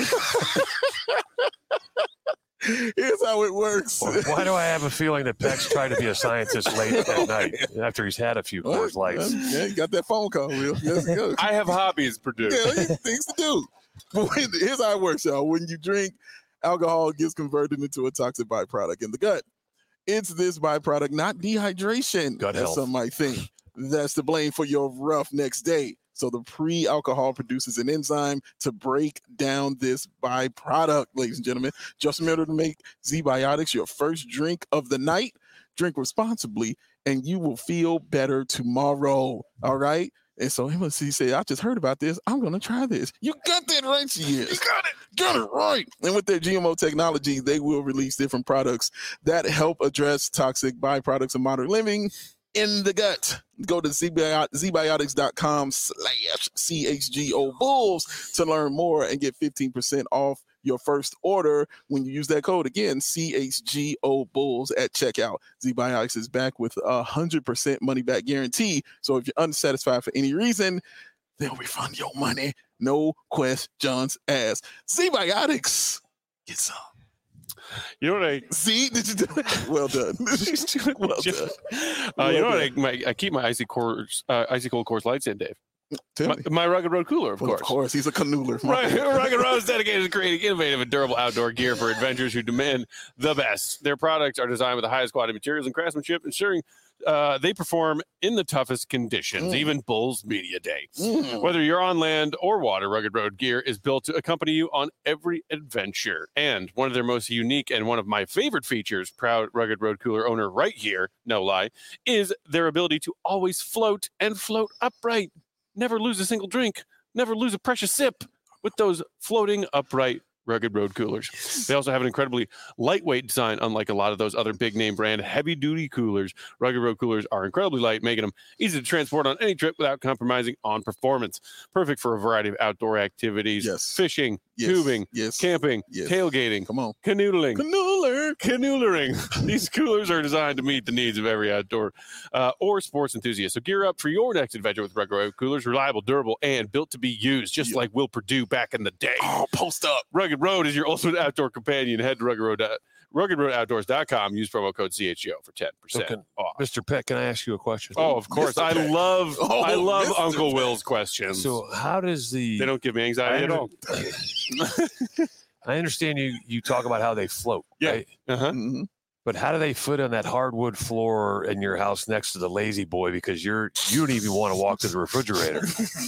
Here's how it works. Why do I have a feeling that Peck's trying to be a scientist late at night after he's had a few Coors Lights? Yeah, you got that phone call, Will. Yes, it goes. I have hobbies, Purdue. Yeah, things to do. But when, here's how it works, y'all. When you drink, alcohol gets converted into a toxic byproduct in the gut. It's this byproduct, not dehydration, Gut as health. some might think, that's to blame for your rough next day. So the pre-alcohol produces an enzyme to break down this byproduct, ladies and gentlemen. Just remember to make Z-Biotics your first drink of the night. Drink responsibly, and you will feel better tomorrow. All right? And so Emma C said, I just heard about this. I'm going to try this. You got that right, she is. You got it. Got it right. And with their G M O technology, they will release different products that help address toxic byproducts of modern living in the gut. Go to zbiotics.com slash CHGO Bulls to learn more and get fifteen percent off your first order when you use that code. Again, C H G O Bulls at checkout. Z-Biotics is back with a one hundred percent money back guarantee. So if you're unsatisfied for any reason, they'll refund your money. No questions asked. Z-Biotics. Get some. You know what I See? Did you do it? Well done. well done. Uh, you know Well what I, my, I keep my icy course, uh, icy cold course lights in, Dave. Tell My, me. my Rugged Road cooler, of Well, course. Of course, he's a canoodler. Right, Rugged Road is dedicated to creating innovative and durable outdoor gear for adventurers who demand the best. Their products are designed with the highest quality materials and craftsmanship, ensuring uh, they perform in the toughest conditions, Mm. even Bulls Media Day. Mm. Whether you're on land or water, Rugged Road gear is built to accompany you on every adventure. And one of their most unique and one of my favorite features, proud Rugged Road cooler owner right here, no lie, is their ability to always float and float upright. Never lose a single drink, never lose a precious sip with those floating upright Rugged Road coolers. They also have an incredibly lightweight design, unlike a lot of those other big name brand heavy duty coolers. Rugged Road coolers are incredibly light, making them easy to transport on any trip without compromising on performance. Perfect for a variety of outdoor activities, Yes. fishing, Yes. tubing, Yes. camping, Yes. tailgating, Come on. canoodling. Canooler. Canoodlering. These coolers are designed to meet the needs of every outdoor uh, or sports enthusiast. So gear up for your next adventure with Rugged Road coolers. Reliable, durable, and built to be used, just Yeah. like Will Purdue back in the day. Oh, post up. Rugged Road is your ultimate outdoor companion. Head to rugged road, rugged road outdoors dot com. Use promo code C H G O for ten percent So can- off. Mister Peck, can I ask you a question? Oh, of course. I love Oh, I love Mister Uncle Peck. Will's questions. So how does the they don't give me anxiety at all. I understand you you talk about how they float, Yeah. right? Uh-huh. Mhm. But how do they foot on that hardwood floor in your house next to the lazy boy? Because you're you don't even want to walk to the refrigerator.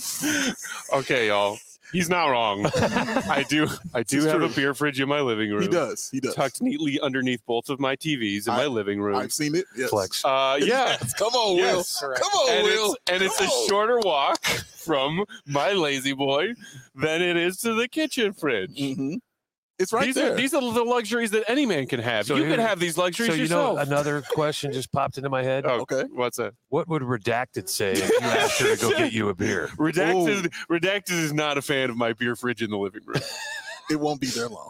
Okay, y'all. He's not wrong. I do I do It's have true. a beer fridge in my living room. He does. He does. Tucked neatly underneath both of my T Vs in I- my living room. I've seen it. Yes. Flex. Uh, yeah. Yes. Come on, Yes. Will. Come on, and Will. it's, and it's Come a on. shorter walk from my lazy boy than it is to the kitchen fridge. Mhm. It's right these there. are these are the luxuries that any man can have. So you here- can have these luxuries So you yourself. know, another question just popped into my head. oh, Okay. What's that? What would Redacted say if you asked her to go get you a beer? Redacted. Redacted is not a fan of my beer fridge in the living room. It won't be there long.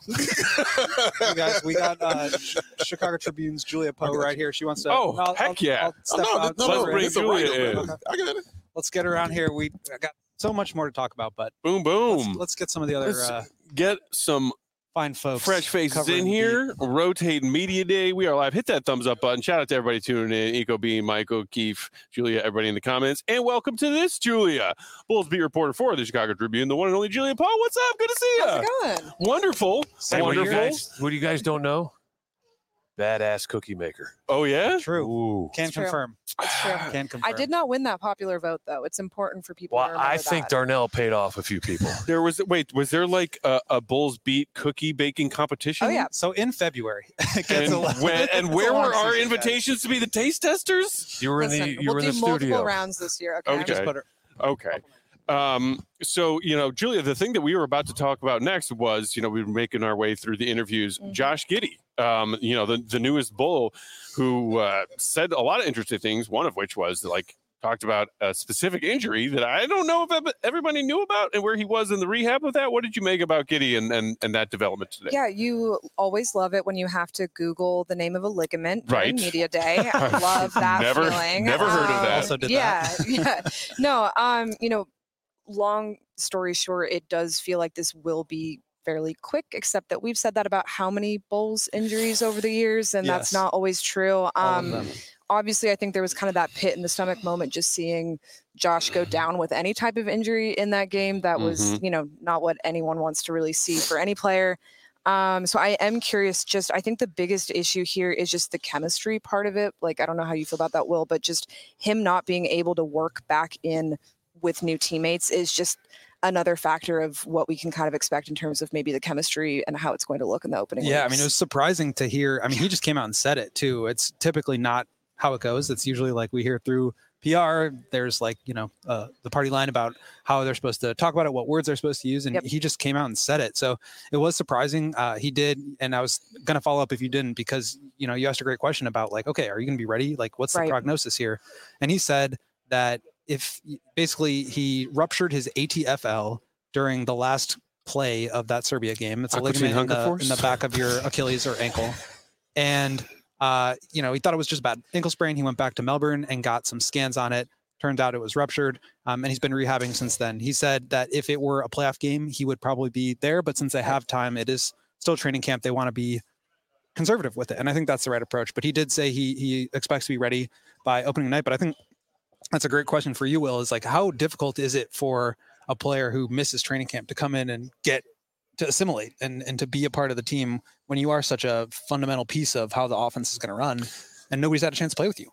We got, we got uh, Ch- Chicago Tribune's Julia Poe right here. She wants to. Oh, heck yeah. Oh, step no, out- no, Let's no, bring it's a Julia writer, in. man. I got it. Let's get her around here. We I got so much more to talk about, but Boom, let's, boom. let's get some of the other Let's uh, Get some fine folks. fresh faces covering in the- here. Rotating Media Day. We are live. Hit that thumbs up button. Shout out to everybody tuning in. Eco Bean, Michael, Keefe, Julia, everybody in the comments. And welcome to this, Julia. Bulls beat reporter for the Chicago Tribune, the one and only Julia Paul. What's up? Good to see you. How's it going? Wonderful. Hey, what you Wonderful. guys, what you guys don't know? Badass cookie maker. Oh, yeah? True. Ooh. Can It's true. confirm. It's true. Can confirm. I did not win that popular vote, though. It's important for people Well, to remember I think that. Darnell paid off a few people. There was, wait, was there like a, a Bulls beat cookie baking competition? Oh, yeah. So in February, it gets And, a lot- when, and It's where a long were our season, guys. invitations to be the taste testers? You were in Listen, the you we'll were in do the multiple studio. rounds this year. Okay. Okay. Just put her- Okay. Um, so, you know, Julia, the thing that we were about to talk about next was, you know, we were making our way through the interviews. Mhm. Josh Giddey, um, you know, the, the newest Bull who uh, said a lot of interesting things, one of which was like talked about a specific injury that I don't know if ev- everybody knew about and where he was in the rehab of that. What did you make about Giddey and, and, and that development today? Yeah, you always love it when you have to Google the name of a ligament during Right. media day. I love that Never- feeling. never heard of that. Also did yeah, that. yeah. No, um, you know, long story short, it does feel like this will be fairly quick, except that we've said that about how many Bulls injuries over the years, and that's Yes. not always true. All of Um, them. obviously, I think there was kind of that pit in the stomach moment just seeing Josh go down with any type of injury in that game. That was, Mhm. you know, not what anyone wants to really see for any player. Um, so I am curious. Just, I think the biggest issue here is just the chemistry part of it. Like, I don't know how you feel about that, Will, but just him not being able to work back in with new teammates is just another factor of what we can kind of expect in terms of maybe the chemistry and how it's going to look in the opening. Yeah, I weeks. mean, it was surprising to hear. I mean, he just came out and said it too. It's typically not how it goes. It's usually like we hear through P R. There's like, you know, uh, the party line about how they're supposed to talk about it, what words they're supposed to use. And Yep. he just came out and said it. So it was surprising. Uh, he did. And I was going to follow up if you didn't, because, you know, you asked a great question about like, okay, are you going to be ready? Like, what's Right. the prognosis here? And he said that if basically he ruptured his A T F L during the last play of that Serbia game. It's a Aquatine ligament in Hunger the, Force? in the back of your Achilles or ankle. And, uh, you know, he thought it was just bad ankle sprain. He went back to Melbourne and got some scans on it. Turned out it was ruptured. Um, and he's been rehabbing since then. He said that if it were a playoff game, he would probably be there. But since they have time, it is still training camp. They want to be conservative with it. And I think that's the right approach. But he did say he he expects to be ready by opening night. But I think that's a great question for you, Will, is like, how difficult is it for a player who misses training camp to come in and get to assimilate and, and to be a part of the team when you are such a fundamental piece of how the offense is going to run and nobody's had a chance to play with you?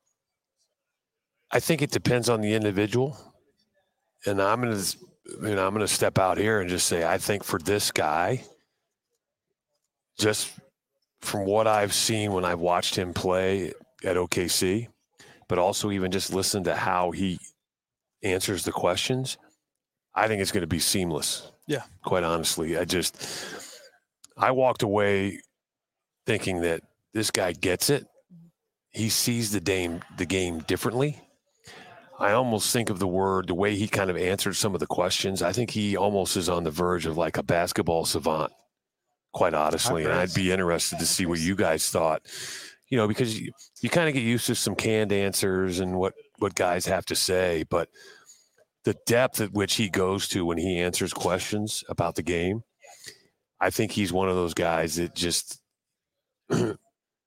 I think it depends on the individual. And I'm going to, you know, I'm going to step out here and just say, I think for this guy, just from what I've seen when I've watched him play at O K C, but also even just listen to how he answers the questions, I think it's going to be seamless. Yeah. Quite honestly, I just, I walked away thinking that this guy gets it. He sees the game, the game differently. I almost think of the word, the way he kind of answered some of the questions. I think he almost is on the verge of like a basketball savant, quite honestly. And I'd be interested to see what you guys thought, you know, because you, you kind of get used to some canned answers and what, what guys have to say, but the depth at which he goes to when he answers questions about the game, I think he's one of those guys that just, well,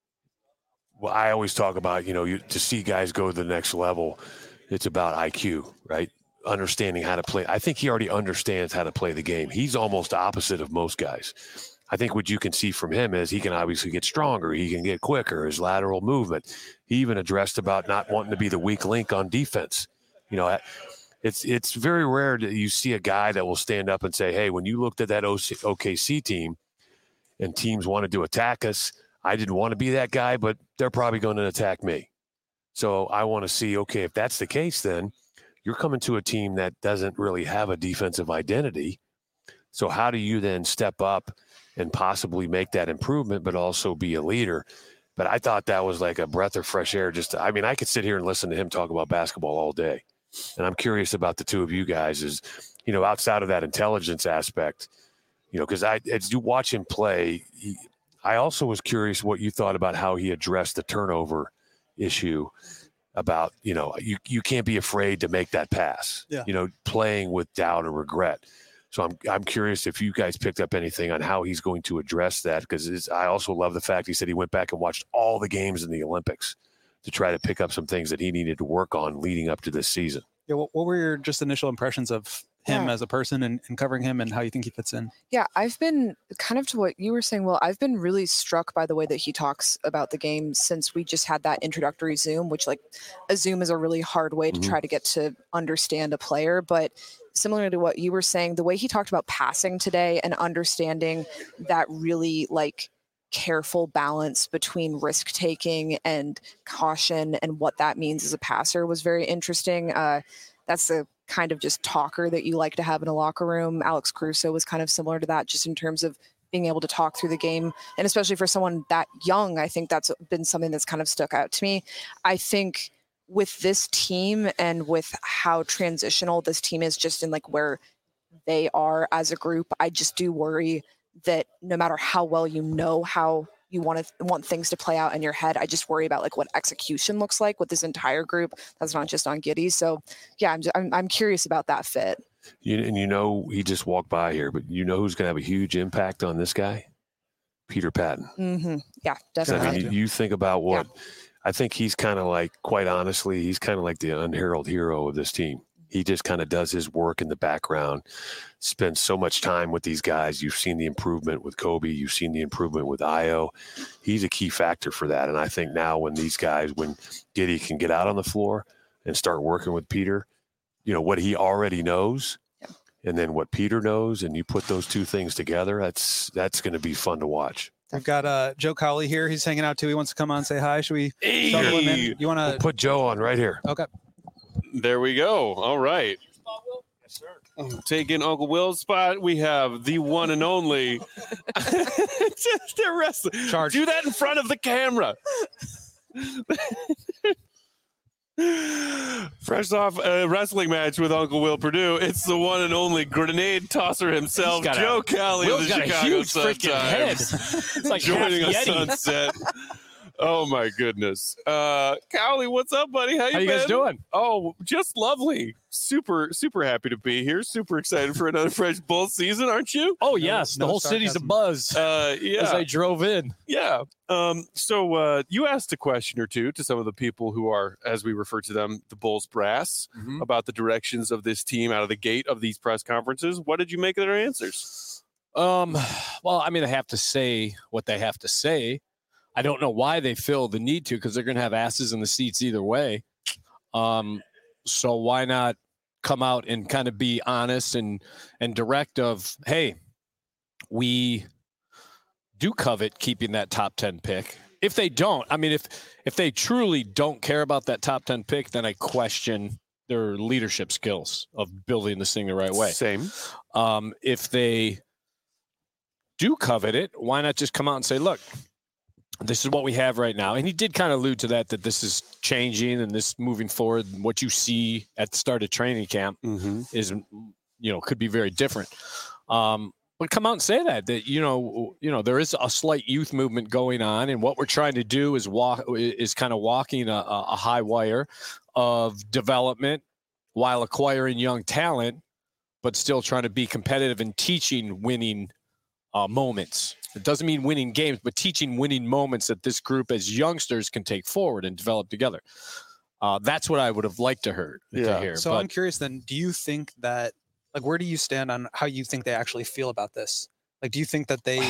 I always talk about, you know, you, to see guys go to the next level, it's about I Q, right? Understanding how to play. I think he already understands how to play the game. He's almost opposite of most guys. I think what you can see from him is he can obviously get stronger. He can get quicker, his lateral movement. He even addressed about not wanting to be the weak link on defense. You know, it's it's very rare that you see a guy that will stand up and say, hey, when you looked at that O K C team and teams wanted to attack us, I didn't want to be that guy, but they're probably going to attack me. So I want to see, okay, if that's the case, then you're coming to a team that doesn't really have a defensive identity. So how do you then step up and possibly make that improvement, but also be a leader? But I thought that was like a breath of fresh air. Just, to, I mean, I could sit here and listen to him talk about basketball all day. And I'm curious about the two of you guys is, you know, outside of that intelligence aspect, you know, because I, as you watch him play, he, I also was curious what you thought about how he addressed the turnover issue about, you know, you, you can't be afraid to make that pass, yeah. you know, playing with doubt or regret. So I'm I'm curious if you guys picked up anything on how he's going to address that, because I also love the fact he said he went back and watched all the games in the Olympics to try to pick up some things that he needed to work on leading up to this season. Yeah, what, what were your just initial impressions of him Yeah. as a person and, and covering him and how you think he fits in? Yeah, I've been kind of to what you were saying. Well, I've been really struck by the way that he talks about the game since we just had that introductory Zoom, which like a Zoom is a really hard way to Mhm. try to get to understand a player. But similar to what you were saying, the way he talked about passing today and understanding that really like careful balance between risk taking and caution and what that means as a passer was very interesting. Uh, that's the kind of just talker that you like to have in a locker room. Alex Caruso was kind of similar to that, just in terms of being able to talk through the game. And especially for someone that young, I think that's been something that's kind of stuck out to me. I think with this team and with how transitional this team is just in like where they are as a group, I just do worry that no matter how well you know how you want to want things to play out in your head, I just worry about like what execution looks like with this entire group. That's not just on Giddey. So yeah, I'm, just, I'm, I'm curious about that fit. You, and you know, he just walked by here, but you know who's going to have a huge impact on this guy? Peter Patton. Mm-hmm. Yeah, So, definitely. I mean, you, you think about what I think he's kind of like, quite honestly, he's kind of like the unheralded hero of this team. He just kind of does his work in the background, spends so much time with these guys. You've seen the improvement with Kobe. You've seen the improvement with Ayo. He's a key factor for that. And I think now when these guys, when Giddey can get out on the floor and start working with Peter, you know, what he already knows Yeah. and then what Peter knows, and you put those two things together, that's that's going to be fun to watch. We've got uh, Joe Cowley here. He's hanging out too. He wants to come on and say hi. Should we Hey. shuttle him in? You want We'll to? put Joe on right here. Okay. There we go. All right. Yes, sir. Taking Uncle Will's spot, we have the one and only. They're wrestling. Charge. Do that in front of the camera. Fresh off a wrestling match with Uncle Will Purdue, it's the one and only grenade tosser himself, He's got a- Joe Cowley of Will's the got a Chicago huge freaking head. Sun-Times, It's like joining half us Yeti. on set. Oh my goodness, uh, Cowley, what's up, buddy? How you, How you been? guys doing? Oh, just lovely. Super, super happy to be here. Super excited for another Fresh Bull season, aren't you? Oh yes, no the whole city's sarcasm. abuzz Uh, as yeah, I drove in. yeah. Um, so uh, you asked a question or two to some of the people who are, as we refer to them, the Bulls brass, Mhm. about the directions of this team out of the gate of these press conferences. What did you make of their answers? Um, well, I mean, they have to say what they have to say. I don't know why they feel the need to, because they're going to have asses in the seats either way. Um, so why not come out and kind of be honest and and direct of, hey, we do covet keeping that top ten pick. If they don't, I mean, if if they truly don't care about that top ten pick, then I question their leadership skills of building this thing the right way. Same. Um, if they do covet it, why not just come out and say, look, this is what we have right now. And he did kind of allude to that, that this is changing and this moving forward. What you see at the start of training camp Mm-hmm. is, you know, could be very different. Um, but come out and say that, that, you know, you know, there is a slight youth movement going on. And what we're trying to do is walk, is kind of walking a, a high wire of development while acquiring young talent, but still trying to be competitive and teaching winning uh, moments. It doesn't mean winning games, but teaching winning moments that this group as youngsters can take forward and develop together. Uh, that's what I would have liked to, heard, Yeah. to hear. So but, I'm curious then, do you think that, like, where do you stand on how you think they actually feel about this? Like, do you think that they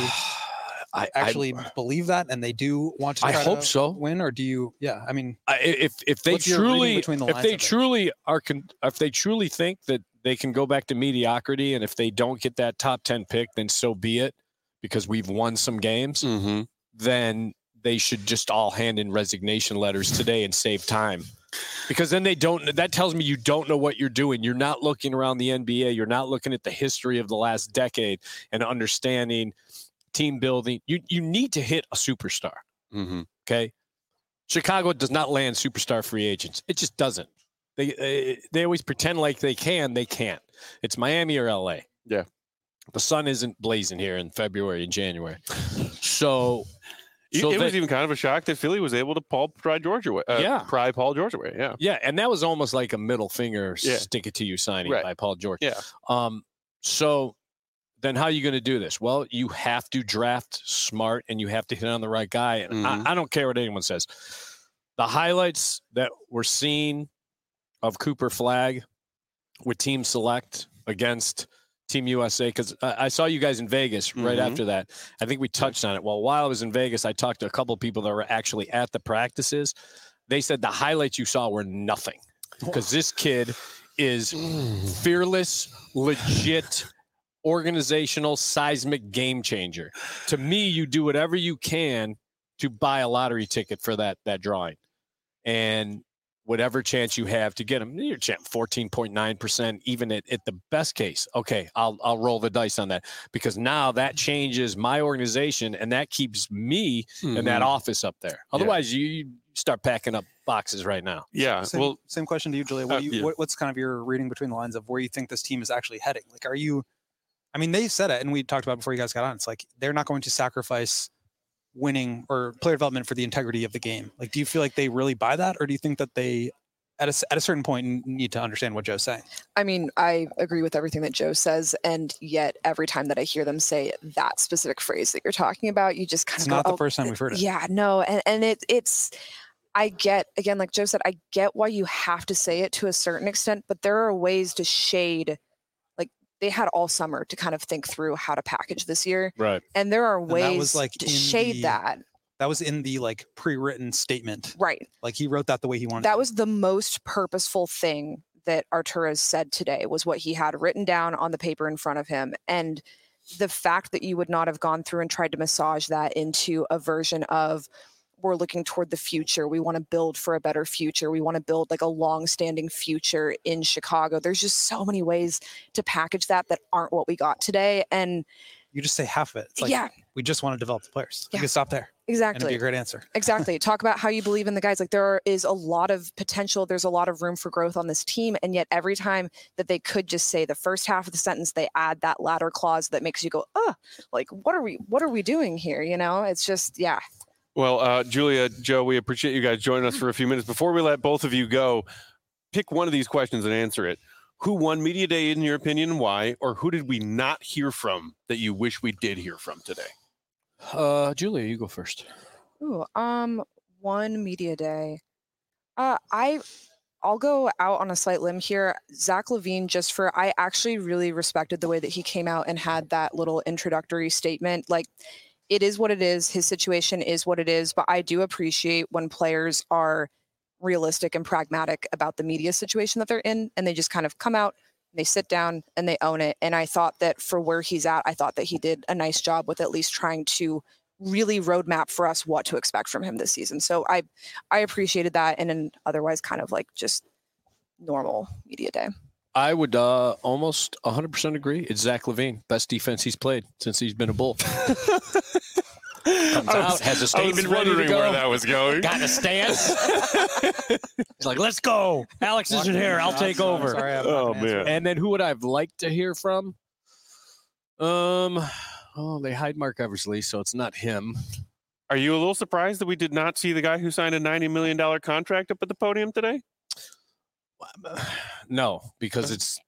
I actually I, believe that and they do want to I try hope to so. win? Or do you, yeah, I mean, I, if if they What's your reading truly between the if lines they of it? truly are con, if they truly think that they can go back to mediocrity, and if they don't get that top ten pick, then so be it, because we've won some games. Mm-hmm. Then they should just all hand in resignation letters today and save time. Because then they don't, that tells me you don't know what you're doing. You're not looking around the N B A. You're not looking at the history of the last decade and understanding team building. You you need to hit a superstar. Mm-hmm. Okay. Chicago does not land superstar free agents. It just doesn't. They, they, they always pretend like they can. They can't. It's Miami or L A. Yeah. The sun isn't blazing here in February and January. So, It, so it they- was even kind of a shock that Philly was able to Paul pry George away. Uh, Yeah. pry Paul George away. Yeah. yeah, and that was almost like a middle finger Yeah. stick it to you signing Right. by Paul George. Yeah. Um, so then how are you going to do this? Well, you have to draft smart and you have to hit on the right guy. And Mhm. I, I don't care what anyone says. The highlights that we're seeing of Cooper Flag with Team Select against Team U S A, because I, I saw you guys in Vegas right Mhm. after that. I think we touched on it. Well, while I was in Vegas, I talked to a couple of people that were actually at the practices. They said the highlights you saw were nothing, because this kid is fearless, legit, organizational, seismic game changer. To me, you do whatever you can to buy a lottery ticket for that that drawing, and whatever chance you have to get him, you're champ fourteen point nine percent, even at, at the best case. Okay, I'll I'll roll the dice on that, because now that changes my organization and that keeps me in that office up there. Otherwise, you, you start packing up boxes right now. Yeah. same, Well, same question to you, Julia. What uh, do you, yeah. what, what's kind of your reading between the lines of where you think this team is actually heading? Like, are you, I mean, they said it, and we talked about it before you guys got on. It's like they're not going to sacrifice winning or player development for the integrity of the game. Like, do you feel like they really buy that, or do you think that they, at a, at a certain point, need to understand what Joe's saying? I mean, I agree with everything that Joe says, and yet every time that I hear them say that specific phrase that you're talking about, you just kind It's of go, not the "Oh, first time we've heard it. yeah, no," and and it it's. I get, again, like Joe said, I get why you have to say it to a certain extent, but there are ways to shade. Like, they had all summer to kind of think through how to package this year, Right. and there are And that ways was, like, to in shade the- that. That was in the like pre-written statement. Right. Like he wrote that the way he wanted. That to. was the most purposeful thing that Arturas said today, was what he had written down on the paper in front of him. And the fact that you would not have gone through and tried to massage that into a version of, we're looking toward the future, we want to build for a better future, we want to build like a long-standing future in Chicago. There's just so many ways to package that that aren't what we got today. And You just say half of it. It's like, yeah, we just want to develop the players. You Yeah. can stop there. And it'd exactly. be a great answer. Exactly. Talk about how you believe in the guys. Like, there is a lot of potential. There's a lot of room for growth on this team. And yet every time that they could just say the first half of the sentence, they add that latter clause that makes you go, oh, like, what are we, what are we doing here? You know, it's just, yeah. Well, uh, Julia, Joe, we appreciate you guys joining us for a few minutes. Before we let both of you go, pick one of these questions and answer it. Who won Media Day in your opinion and why? Or who did we not hear from that you wish we did hear from today? Uh, Julia, you go first. Ooh, um, one media day. Uh, I, I'll go out on a slight limb here. Zach Levine, just for, I actually really respected the way that he came out and had that little introductory statement. Like, it is what it is. His situation is what it is. But I do appreciate when players are realistic and pragmatic about the media situation that they're in, and they just kind of come out, they sit down, and they own it. And I thought that for where he's at, I thought that he did a nice job with at least trying to really roadmap for us what to expect from him this season. So I, I appreciated that, and an otherwise kind of like just normal media day. I would uh, almost one hundred percent agree. It's Zach Levine, best defense he's played since he's been a Bull. Comes out, has a I was statement ready to wondering go. where that was going. Got a stance. He's like, let's go. Alex isn't here. I'll take over. Sorry, I'm not Oh, gonna answer man. that. And then who would I have liked to hear from? Um, oh, they hide Mark Eversley, so it's not him. Are you a little surprised that we did not see the guy who signed a ninety million dollars contract up at the podium today? No, because it's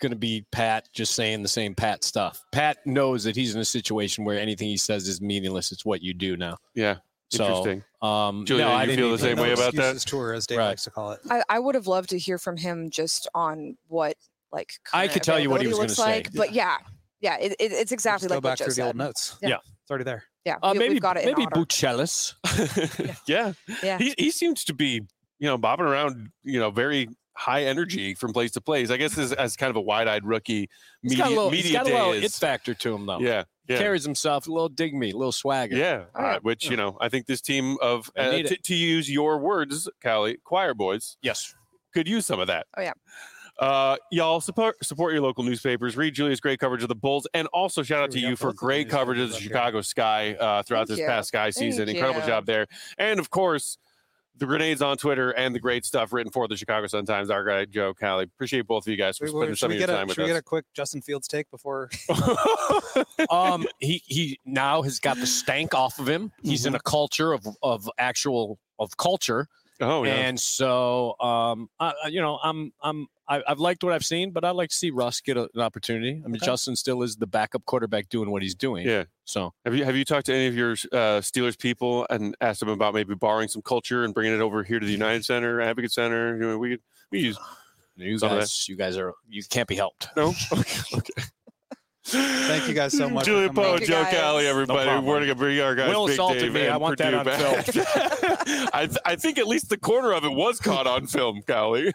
going to be Pat just saying the same Pat stuff. Pat knows that he's in a situation where anything he says is meaningless. It's what you do now. Yeah. So, Interesting. Um, Julia, no, you I didn't feel the even- same No way about that? excuses tour, as Dave Right. likes to call it. I, I would have loved to hear from him just on what like I current could tell you what he was availability gonna looks say. like, but yeah, yeah, it, it, it's exactly Just like go what back Joe through the old said. notes. Yeah. Yeah. It's already there. Yeah, Uh, we, maybe we've got it in maybe order. Buccellis. yeah. Yeah. He, he seems to be, you know, bobbing around, you know, very high energy from place to place. I guess as, as kind of a wide-eyed rookie, He's media, got a little, media he's got a day little is, it factor to him, though. yeah, yeah. Carries himself a little dig me, a little swagger. Yeah, Oh, yeah. uh, which, you know, I think this team of, They uh, need t- it. to use your words, Callie, choir boys, Yes. could use some of that. Oh, yeah. Uh, y'all support support your local newspapers. Read Julia's great coverage of the Bulls, and also shout out to We you got for both of the great coverage of the newspapers up Chicago Sky uh, throughout Thank this you. past Sky Thank season. Incredible you. job there, and of course, the grenades on Twitter and the great stuff written for the Chicago Sun-Times. Our guy Joe, Callie, appreciate both of you guys for Wait, spending wait, some should of we your get time a with should we get a us. quick Justin Fields take before? um, he he now has got the stank off of him. He's in a culture of of actual of culture, oh yeah. and so um, I, I- you know, I'm I'm I, I've liked what I've seen, but I'd like to see Russ get a, an opportunity. I mean, Okay. Justin still is the backup quarterback doing what he's doing. Yeah. So Have you have you talked to any of your uh, Steelers people and asked them about maybe borrowing some culture and bringing it over here to the United Center, Advocate Center? You know, we could we use you Some of guys, you guys are you can't be helped. no. Okay. Okay. Thank you guys so much for Julia coming Poe, on. Thank you, Joe guys. Callie, everybody. problem. We're gonna bring our guys. Will Big assaulted Dave me. I and want that Purdue on back. I th- I think at least the corner of it was caught on film, Callie.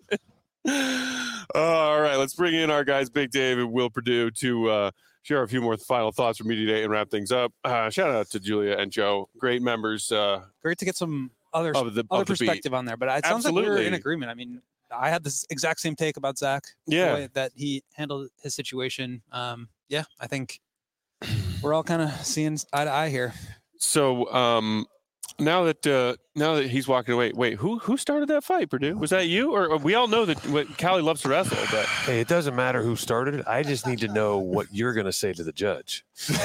All right, let's bring in our guys, Big Dave and Will Purdue, to uh, share a few more final thoughts from Media Day and wrap things up. Uh, shout out to Julia and Joe, great members uh, Great to get some other of the other of the beat. perspective on there, but it sounds like we were Absolutely. in agreement. I mean, I had this exact same take about Zach. the Yeah. way that he handled his situation. Um, yeah, I think we're all kind of seeing eye to eye here. So um, now that uh, now that he's walking away, wait, who who started that fight, Purdue? Was that you, or, or we all know that what Callie loves to wrestle, but Hey, it doesn't matter who started it. I just need to know what you're going to say to the judge.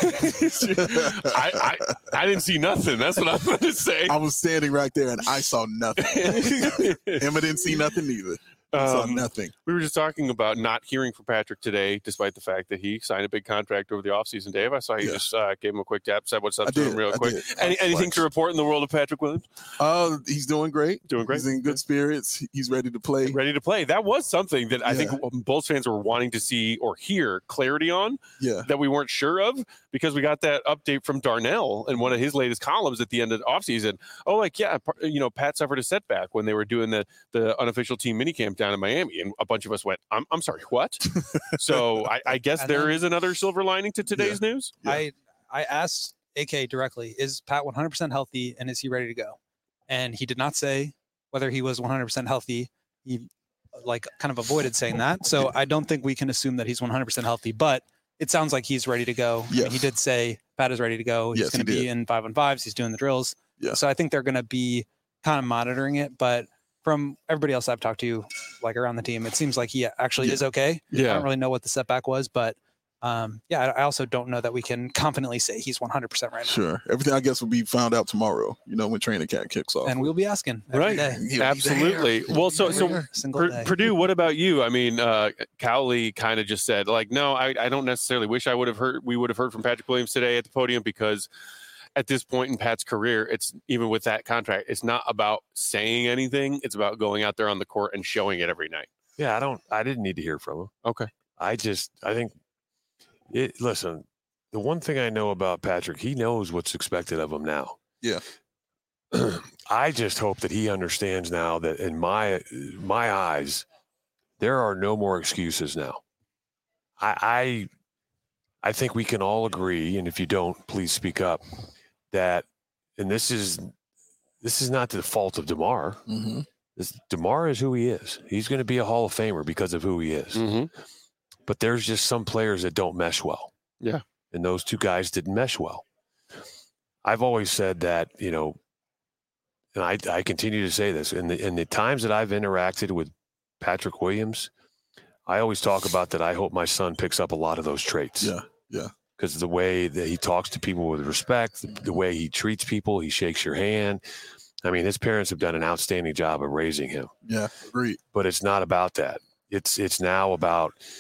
I, I I didn't see nothing. That's what I'm going to say. I was standing right there and I saw nothing. Emma didn't see nothing either. I saw Um, nothing. we were just talking about not hearing from Patrick today, despite the fact that he signed a big contract over the offseason. Dave, I saw you Yeah. just uh, gave him a quick tap, said what's up I to did. him real I quick. did. Any, anything Flex. to report in the world of Patrick Williams? Uh, he's doing great. Doing great. He's in good spirits. He's ready to play. Ready to play. That was something that I Yeah. think Bulls fans were wanting to see or hear clarity on Yeah. that we weren't sure of, because we got that update from Darnell in one of his latest columns at the end of the offseason. Oh, like, yeah, par- you know, Pat suffered a setback when they were doing the, the unofficial team minicamp down in Miami. And a bunch of us went, I'm, I'm sorry, what? So I, I guess And there then- is another silver lining to today's news. Yeah. I I asked A K directly, is Pat one hundred percent healthy and is he ready to go? And he did not say whether he was one hundred percent healthy. He like kind of avoided saying that. So I don't think we can assume that he's one hundred percent healthy, but it sounds like he's ready to go. I mean, Yes. he did say Pat is ready to go. He's Yes, going to he be did. in five on fives. He's doing the drills. Yeah. So I think they're going to be kind of monitoring it. But from everybody else I've talked to, like around the team, it seems like he actually Yeah. is okay. I Yeah. don't really know what the setback was, but um, yeah, I I also don't know that we can confidently say he's one hundred percent right now. Sure. Everything I guess will be found out tomorrow, you know, when training camp kicks off. And we'll be asking every Right. day. He'll be Absolutely. there. Well, so, so Every single Pur- day. Purdue, what about you? I mean, uh, Cowley kind of just said, like, no, I, I don't necessarily wish I would have heard, we would have heard from Patrick Williams today at the podium, because at this point in Pat's career, it's even with that contract, it's not about saying anything. It's about going out there on the court and showing it every night. Yeah, I don't. I didn't need to hear from him. Okay. I just. I think. It. Listen, the one thing I know about Patrick, he knows what's expected of him now. Yeah. I just hope that he understands now that in my my eyes, there are no more excuses now. I. I I think we can all agree, and if you don't, please speak up, that, and this is this is not the fault of DeMar. Mm-hmm. This, DeMar is who he is. He's going to be a Hall of Famer because of who he is. Mm-hmm. But there's just some players that don't mesh well. Yeah. And those two guys didn't mesh well. I've always said that, you know, and I, I continue to say this, in the, in the times that I've interacted with Patrick Williams, I always talk about that I hope my son picks up a lot of those traits. Yeah. Yeah. Because the way that he talks to people with respect, the, the way he treats people, he shakes your hand. I mean, his parents have done an outstanding job of raising him. Yeah. Agreed. But it's not about that. It's it's now about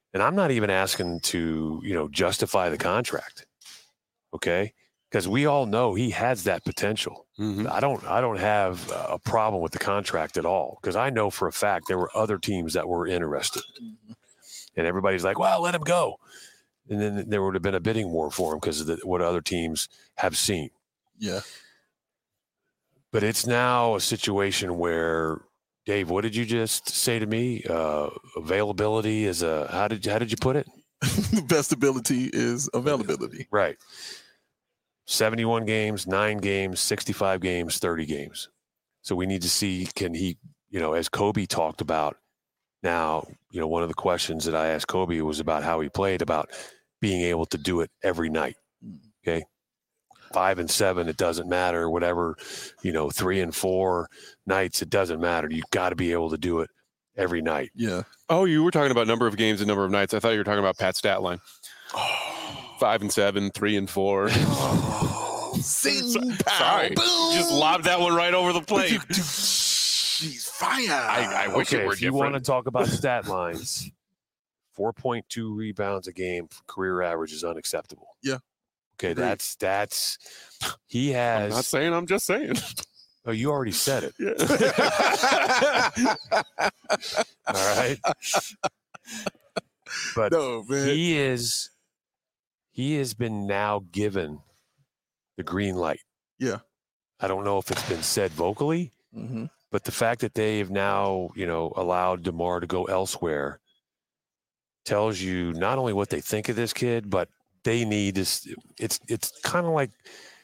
And I'm not even asking to, you know, justify the contract. Okay. Because we all know he has that potential. Mm-hmm. I don't I don't have a problem with the contract at all, because I know for a fact there were other teams that were interested. Mhm. And everybody's like, well, let him go. And then there would have been a bidding war for him because of the, what other teams have seen. Yeah. But it's now a situation where, Dave, what did you just say to me? Uh, availability is a, how did how did you put it? The best ability is availability. Right. seventy-one games, nine games, sixty-five games, thirty games. So we need to see, can he, you know, as Kobe talked about now, you know, one of the questions that I asked Kobe was about how he played, about being able to do it every night. Okay. Five and seven, it doesn't matter. Whatever, you know, three and four nights, it doesn't matter. You got to be able to do it every night. Yeah. Oh, you were talking about number of games and number of nights. I thought you were talking about Pat's stat line. Five and seven, three and four. Oh, sing pow, Sorry. boom. Just lobbed that one right over the plate. She's fire. I, I wish Okay, it were if you want to different. talk about stat lines, four point two rebounds a game for career average is unacceptable. Yeah. Okay, Agreed. that's that's he I'm has. not saying, I'm just saying. Oh, you already said it. Yeah. All right. But No, man. he is he has been now given the green light. Yeah. I don't know if it's been said vocally, Mm-hmm. but the fact that they have now, you know, allowed DeMar to go elsewhere tells you not only what they think of this kid, but they need is it's it's kind of like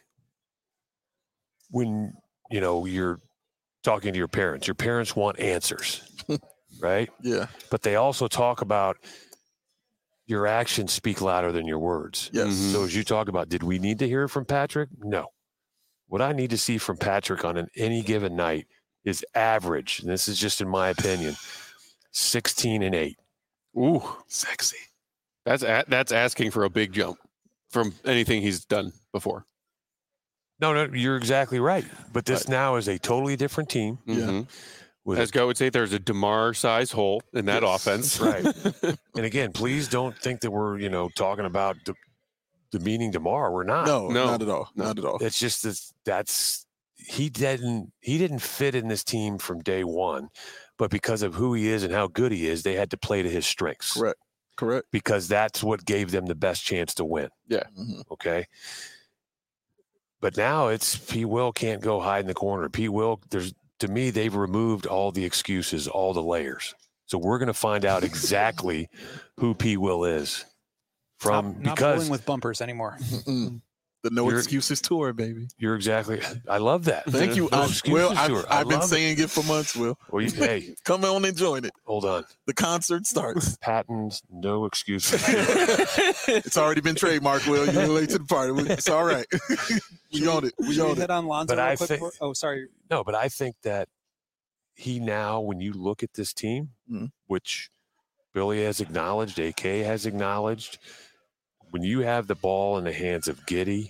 when, you know, you're talking to your parents. Your parents want answers, right? Yeah. But they also talk about your actions speak louder than your words. Yes. Mhm. So as you talk about, did we need to hear from Patrick? No. What I need to see from Patrick on an, any given night is average, and this is just in my opinion, sixteen and eight. Ooh, Sexy. that's a, that's asking for a big jump from anything he's done before. No, no, you're exactly right. But this now is a totally different team. Yeah. Mhm. With As Go would say, there's a DeMar size hole in that Yes. offense. Right. And again, please don't think that we're, you know, talking about de- demeaning DeMar. We're not. No, No. not at all. No. Not at all. It's just that that's he didn't he didn't fit in this team from day one, but because of who he is and how good he is, they had to play to his strengths. Correct. Correct. Because that's what gave them the best chance to win. Mhm. Okay. But now it's P. Will can't go hide in the corner. P. Will, there's to me, they've removed all the excuses, all the layers. So we're going to find out exactly who P. Will is from not, not because bowling with bumpers anymore. Mm-mm. The no You're- excuses tour, baby. you're exactly. I love that. Thank you. No I, excuses Will, I, tour. I I've been love it. saying it for months, Will. Well, you, hey, Come on and join it. hold on. The concert starts. Patents, no excuses. It's already been trademarked, Will. You're late to the party. It's all right. We own it. We Should we own it. hit on Lonzo But real I quick? think- for- oh, sorry. No, but I think that he now, when you look at this team, Mhm. which Billy has acknowledged, A K has acknowledged, when you have the ball in the hands of Giddey,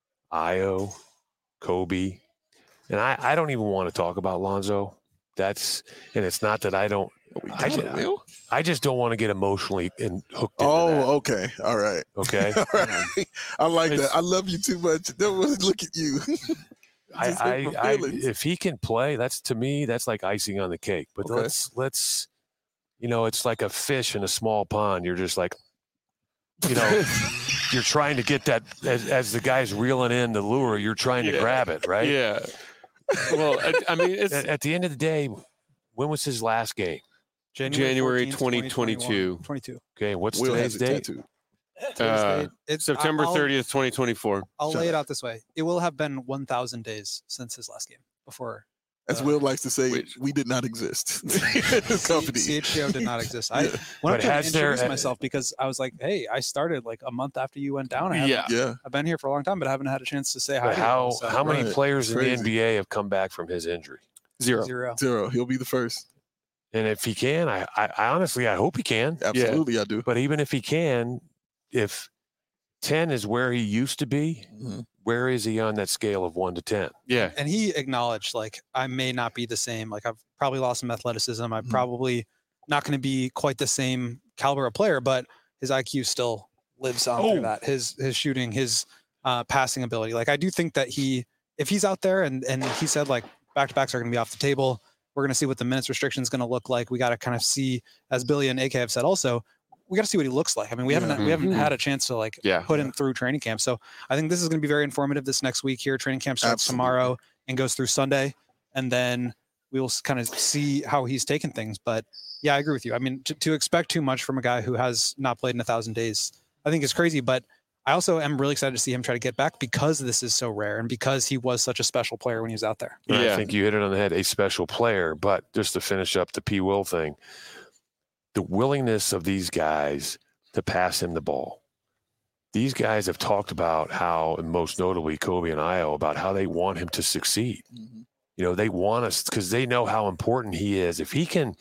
Io, Kobe, and I, I don't even want to talk about Lonzo. That's and it's not that I don't. We I got it, ju- Will. I just don't want to get emotionally and hooked into Oh, that. okay. All right. Okay. All right. I like It's- that. I love you too much. Don't really look at you. I, Just hurt my I, I, feelings. if he can play, that's to me, that's like icing on the cake. But Okay. let's, let's, you know, it's like a fish in a small pond. You're just like, you know, you're trying to get that as, as the guy's reeling in the lure, you're trying to Yeah. grab it, right? Yeah. Well, I, I mean, it's At, at the end of the day, when was his last game? January fourteenth, twenty twenty-two. twenty-two. Okay, what's Will today's has it date? tattooed. Uh, It's September I'll- thirtieth, twenty twenty-four. I'll Shut lay it out this way. It will have been one thousand days since his last game before As Uh, Will likes to say, which- we did not exist. This company. C H G O did not exist. I Yeah. went But up to him and has there- introduced myself because I was like, hey, I started like a month after you went down. I haven't- Yeah. Yeah. I've been here for a long time, but I haven't had a chance to say hi. But to you. how, So, how many Right. players in the Crazy. N B A have come back from his injury? Zero. Zero. Zero. He'll be the first. And if he can, I, I, I honestly, I hope he can. Absolutely, I do. But even if he can, if ten is where he used to be, Mhm. where is he on that scale of one to ten? Yeah. And he acknowledged, like, I may not be the same. Like, I've probably lost some athleticism. I Mhm. probably not going to be quite the same caliber of player, but his I Q still lives on Oh. through that. His his shooting, his uh, passing ability. Like I do think that he, if he's out there and and he said like back to backs are going to be off the table. We're going to see what the minutes restriction is going to look like. We got to kind of see, as Billy and A K have said, also we got to see what he looks like. I mean, we Yeah. haven't we haven't Mhm. had a chance to like Yeah. put him through training camp. So I think this is going to be very informative this next week here. Training camp starts Absolutely. tomorrow and goes through Sunday, and then we will kind of see how he's taken things. But yeah, I agree with you. I mean, to, to expect too much from a guy who has not played in a thousand days, I think is crazy. But I also am really excited to see him try to get back because this is so rare and because he was such a special player when he was out there. And Yeah. I think you hit it on the head, a special player. But just to finish up the P. Will thing, the willingness of these guys to pass him the ball. These guys have talked about how, and most notably Kobe and Io, about how they want him to succeed. Mhm. You know, they want us because they know how important he is. If he can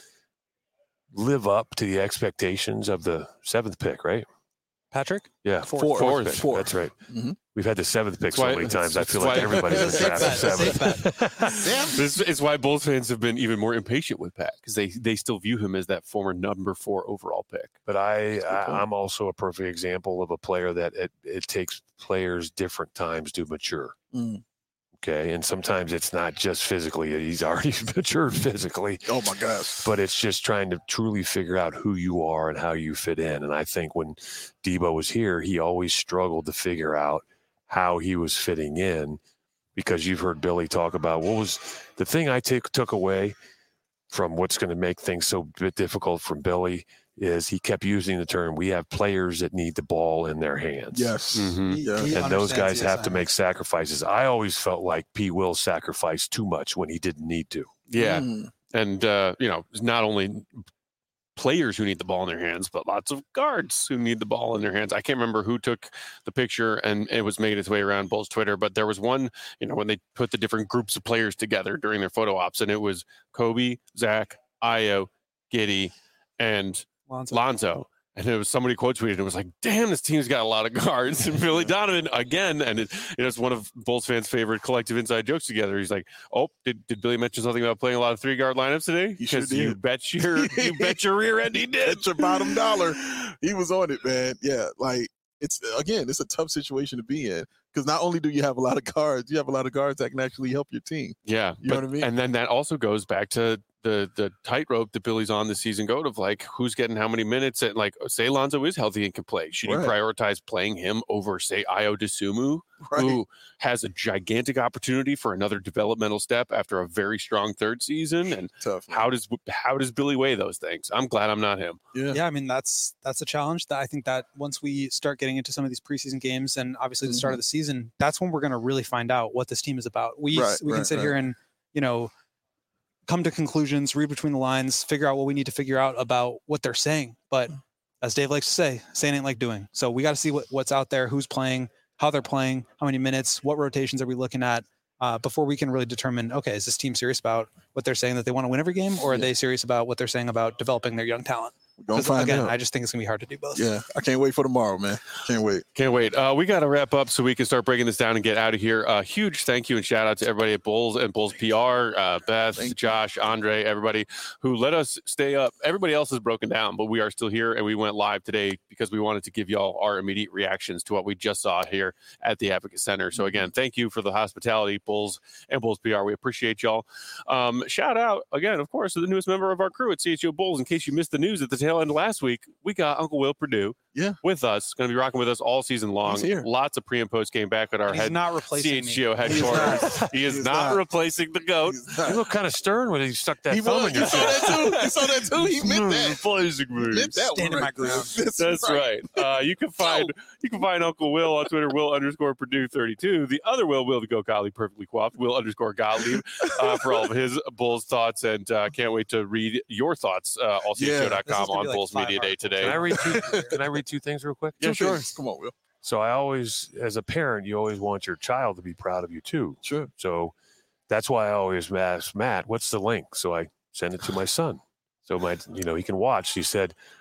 live up to the expectations of the seventh pick, right? Patrick? Yeah, Fourth. Fourth. pick. Fourth. That's right. Mhm. We've had the seventh pick That's so why- many times. I that's feel like why- everybody's in the Safe draft bet, safe seventh. This is why Bulls fans have been even more impatient with Pat because they they still view him as that former number four overall pick. But I, That's a good I point. I'm also a perfect example of a player that it, it takes players different times to mature. Mm. Okay, and sometimes it's not just physically; he's already matured physically. Oh my gosh. But it's just trying to truly figure out who you are and how you fit in. And I think when Debo was here, he always struggled to figure out how he was fitting in, because you've heard Billy talk about what was the thing I take, took away from what's going to make things so bit difficult from Billy is he kept using the term, we have players that need the ball in their hands. Yes. Mhm. He- Yeah. he And those understands guys the have to make assignments. sacrifices. I always felt like P. Will sacrificed too much when he didn't need to. Yeah, Mm. and uh, you know, it's not only players who need the ball in their hands, but lots of guards who need the ball in their hands. I can't remember who took the picture and it was making its way around Bulls Twitter, but there was one, you know, when they put the different groups of players together during their photo ops, and it was Kobe, Zach, Io, Giddey, and Lonzo. Lonzo. And it was somebody quote tweeted, it was like, damn, this team's got a lot of guards. And Billy Donovan again. And it, you know, it's one of Bulls fans' favorite collective inside jokes together. He's like, oh, did, did Billy mention something about playing a lot of three guard lineups today? He sure Because you did. bet your you bet your rear end he did. Bet your bottom dollar. He was on it, man. Yeah, like it's again, it's a tough situation to be in because not only do you have a lot of guards, you have a lot of guards that can actually help your team. Yeah. You know but- what I mean? And then that also goes back to the the tightrope that Billy's on the season goat of like who's getting how many minutes, and like say Lonzo is healthy and can play. Should you Right. prioritize playing him over say Io DeSumo, Right. who has a gigantic opportunity for another developmental step after a very strong third season? And Tough. man. how does how does Billy weigh those things? I'm glad I'm not him. Yeah. Yeah, I mean that's that's a challenge. That I think that once we start getting into some of these preseason games and obviously the start of the season, that's when we're going to really find out what this team is about. We Right, we can right, sit right. here and you know come to conclusions, read between the lines, figure out what we need to figure out about what they're saying. But as Dave likes to say, saying ain't like doing. So we got to see what, what's out there, who's playing, how they're playing, how many minutes, what rotations are we looking at uh, before we can really determine, okay, is this team serious about what they're saying that they want to win every game, or are Yeah. they serious about what they're saying about developing their young talent? We're gonna 'Cause, find again, out. I just think it's gonna be hard to do both. Yeah, I can't wait for tomorrow, man. Can't wait. Can't wait. Uh, we got to wrap up so we can start breaking this down and get out of here. Uh, huge thank you and shout out to everybody at Bulls and Bulls P R, uh, Beth, Thank you. Josh, Andre, everybody who let us stay up. Everybody else is broken down, but we are still here and we went live today because we wanted to give y'all our immediate reactions to what we just saw here at the Advocate Center. So again, thank you for the hospitality, Bulls and Bulls P R. We appreciate y'all. Um, shout out again, of course, to the newest member of our crew at C H O Bulls. In case you missed the news at the tail end of last week, we got Uncle Will Purdue Yeah. with us, going to be rocking with us all season long. He's here. Lots of pre and post game back at our He's head not replacing C H G O me. headquarters. He is He is not, not. replacing the GOAT. He's not- You look kind of stern when he stuck that He thumb was. in your You saw chest. that too. You saw that too. He meant that. Replacing He me. meant that Stand one in my right there. ground. That's, That's right. Uh, you can find you can find Uncle Will on Twitter, Will underscore Purdue thirty-two. The other Will, Will the Go Gottlieb, perfectly coiffed, Will underscore Gottlieb, uh, for all of his Bulls thoughts. And uh, can't wait to read your thoughts. Uh, all C H O dot This com is gonna on be like Bulls five Media Day articles. today. Can I read two? Can I read two things real quick? Yeah, Two sure. things. Come on, Will. So I always, as a parent, you always want your child to be proud of you too. Sure. So that's why I always ask Matt, "What's the link?" So I send it to my son, so my, you know, he can watch. He said,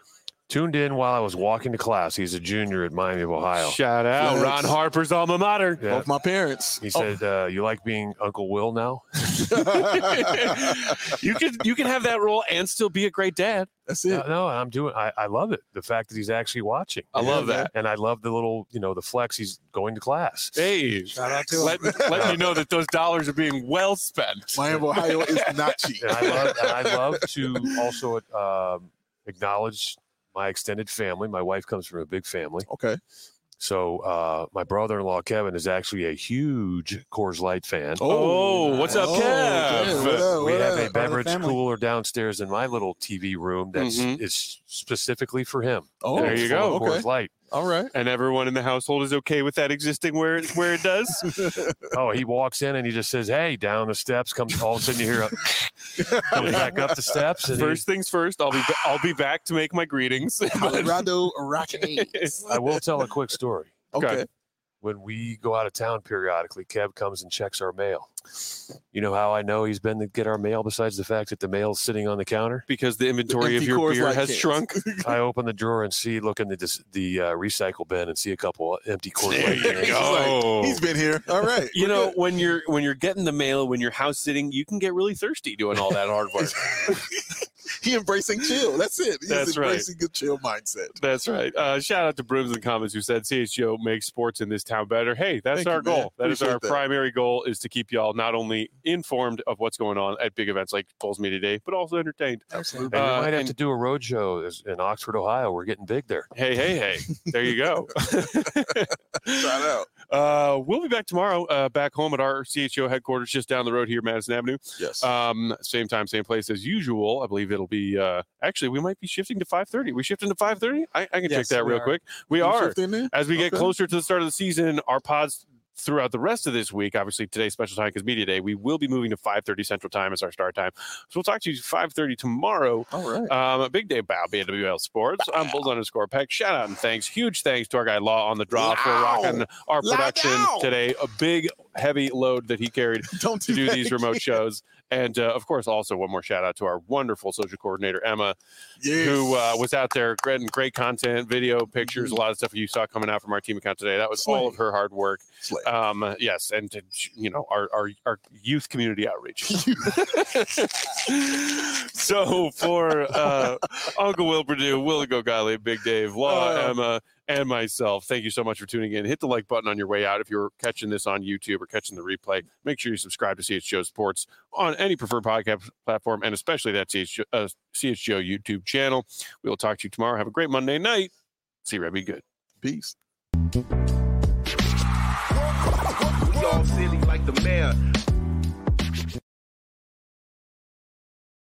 Tuned in while I was walking to class. He's a junior at Miami of Ohio. Shout out Flex. Ron Harper's alma mater. Yeah. Both my parents. He said, uh, "You like being Uncle Will now?" you can you can have that role and still be a great dad. That's it. No, no, I'm doing. I, I love it. The fact that he's actually watching. I love Yeah, that. And I love the little, you know, the flex. He's going to class. Hey, Shout out to him. let, let me know that those dollars are being well spent. Miami of Ohio is not cheap. And I love, and I love to also um, acknowledge my extended family. My wife comes from a big family. Okay. So uh, my brother-in-law Kevin is actually a huge Coors Light fan. Oh, what's up, Oh, Kev? yeah, what up, We what have up? a Part of the beverage family. cooler downstairs in my little T V room that's Mhm. is specifically for him. Oh, There you Full of go. Coors Okay. Light. All right. And everyone in the household is okay with that existing where it, where it does? Oh, he walks in and he just says, "Hey," down the steps. Comes all of a sudden you hear a comes back up the steps. And he- First things first, I'll be ba- I'll be back to make my greetings. Colorado Rockies. I will tell a quick story. Okay. When we go out of town periodically, Kev comes and checks our mail. You know how I know he's been to get our mail besides the fact that the mail's sitting on the counter? Because the inventory of Empty your Coors beer Light has cans. shrunk. I open the drawer and see, look in the dis- the uh, recycle bin and see a couple empty Coors There Light you cans. go. He's been here. All right. You We're know, good. when you're when you're getting the mail, when you're house sitting, you can get really thirsty doing all that hard work. he embracing chill. That's it. He's That's right. embracing a chill mindset. That's right. Uh, shout out to Brooms in the comments who said C H G O makes sports in this town better. Hey, that's Thank our you, man. goal. That is Appreciate our that. primary goal, is to keep y'all not only informed of what's going on at big events like Bulls Media Day, but also entertained. Absolutely. And we Uh, might have and- to do a road show is- in Oxford, Ohio. We're getting big there. Hey, hey, hey. There you go. Shout out. Uh, we'll be back tomorrow, uh, back home at our C H O headquarters just down the road here, Madison Avenue. Yes. Um, same time, same place as usual. I believe it'll be, uh, actually, we might be shifting to five thirty. We shifting to five thirty? I, I can check Yes, that we real are. quick. We You are. shift in there? As we get Okay. closer to the start of the season, our pods throughout the rest of this week, obviously today's special time because Media Day, we will be moving to five thirty Central Time as our start time. So we'll talk to you five thirty tomorrow. All right. Um, a big day about B N W L Sports. I'm Bulls underscore Peck. Shout out and thanks. Huge thanks to our guy Law on the draw for Wow. rocking our Loud production down. today. A big, heavy load that he carried Don't to do that these remote again. shows. And uh, of course, also one more shout out to our wonderful social coordinator, Emma, Yes. who uh, was out there getting great content, video, pictures, a lot of stuff you saw coming out from our team account today. That was all of her hard work. Slay. Um, yes, and to, you know, our, our our youth community outreach. So for uh, Uncle Will Purdue, Will Go Golly, Big Dave, Law, Uh. Emma, and myself, thank you so much for tuning in. Hit the like button on your way out if you're catching this on YouTube or catching the replay. Make sure you subscribe to C H G O Sports on any preferred podcast platform, and especially that C H G O, uh, C H G O YouTube channel. We will talk to you tomorrow. Have a great Monday night. See you, Red. Be good. Peace. We all silly like the mayor.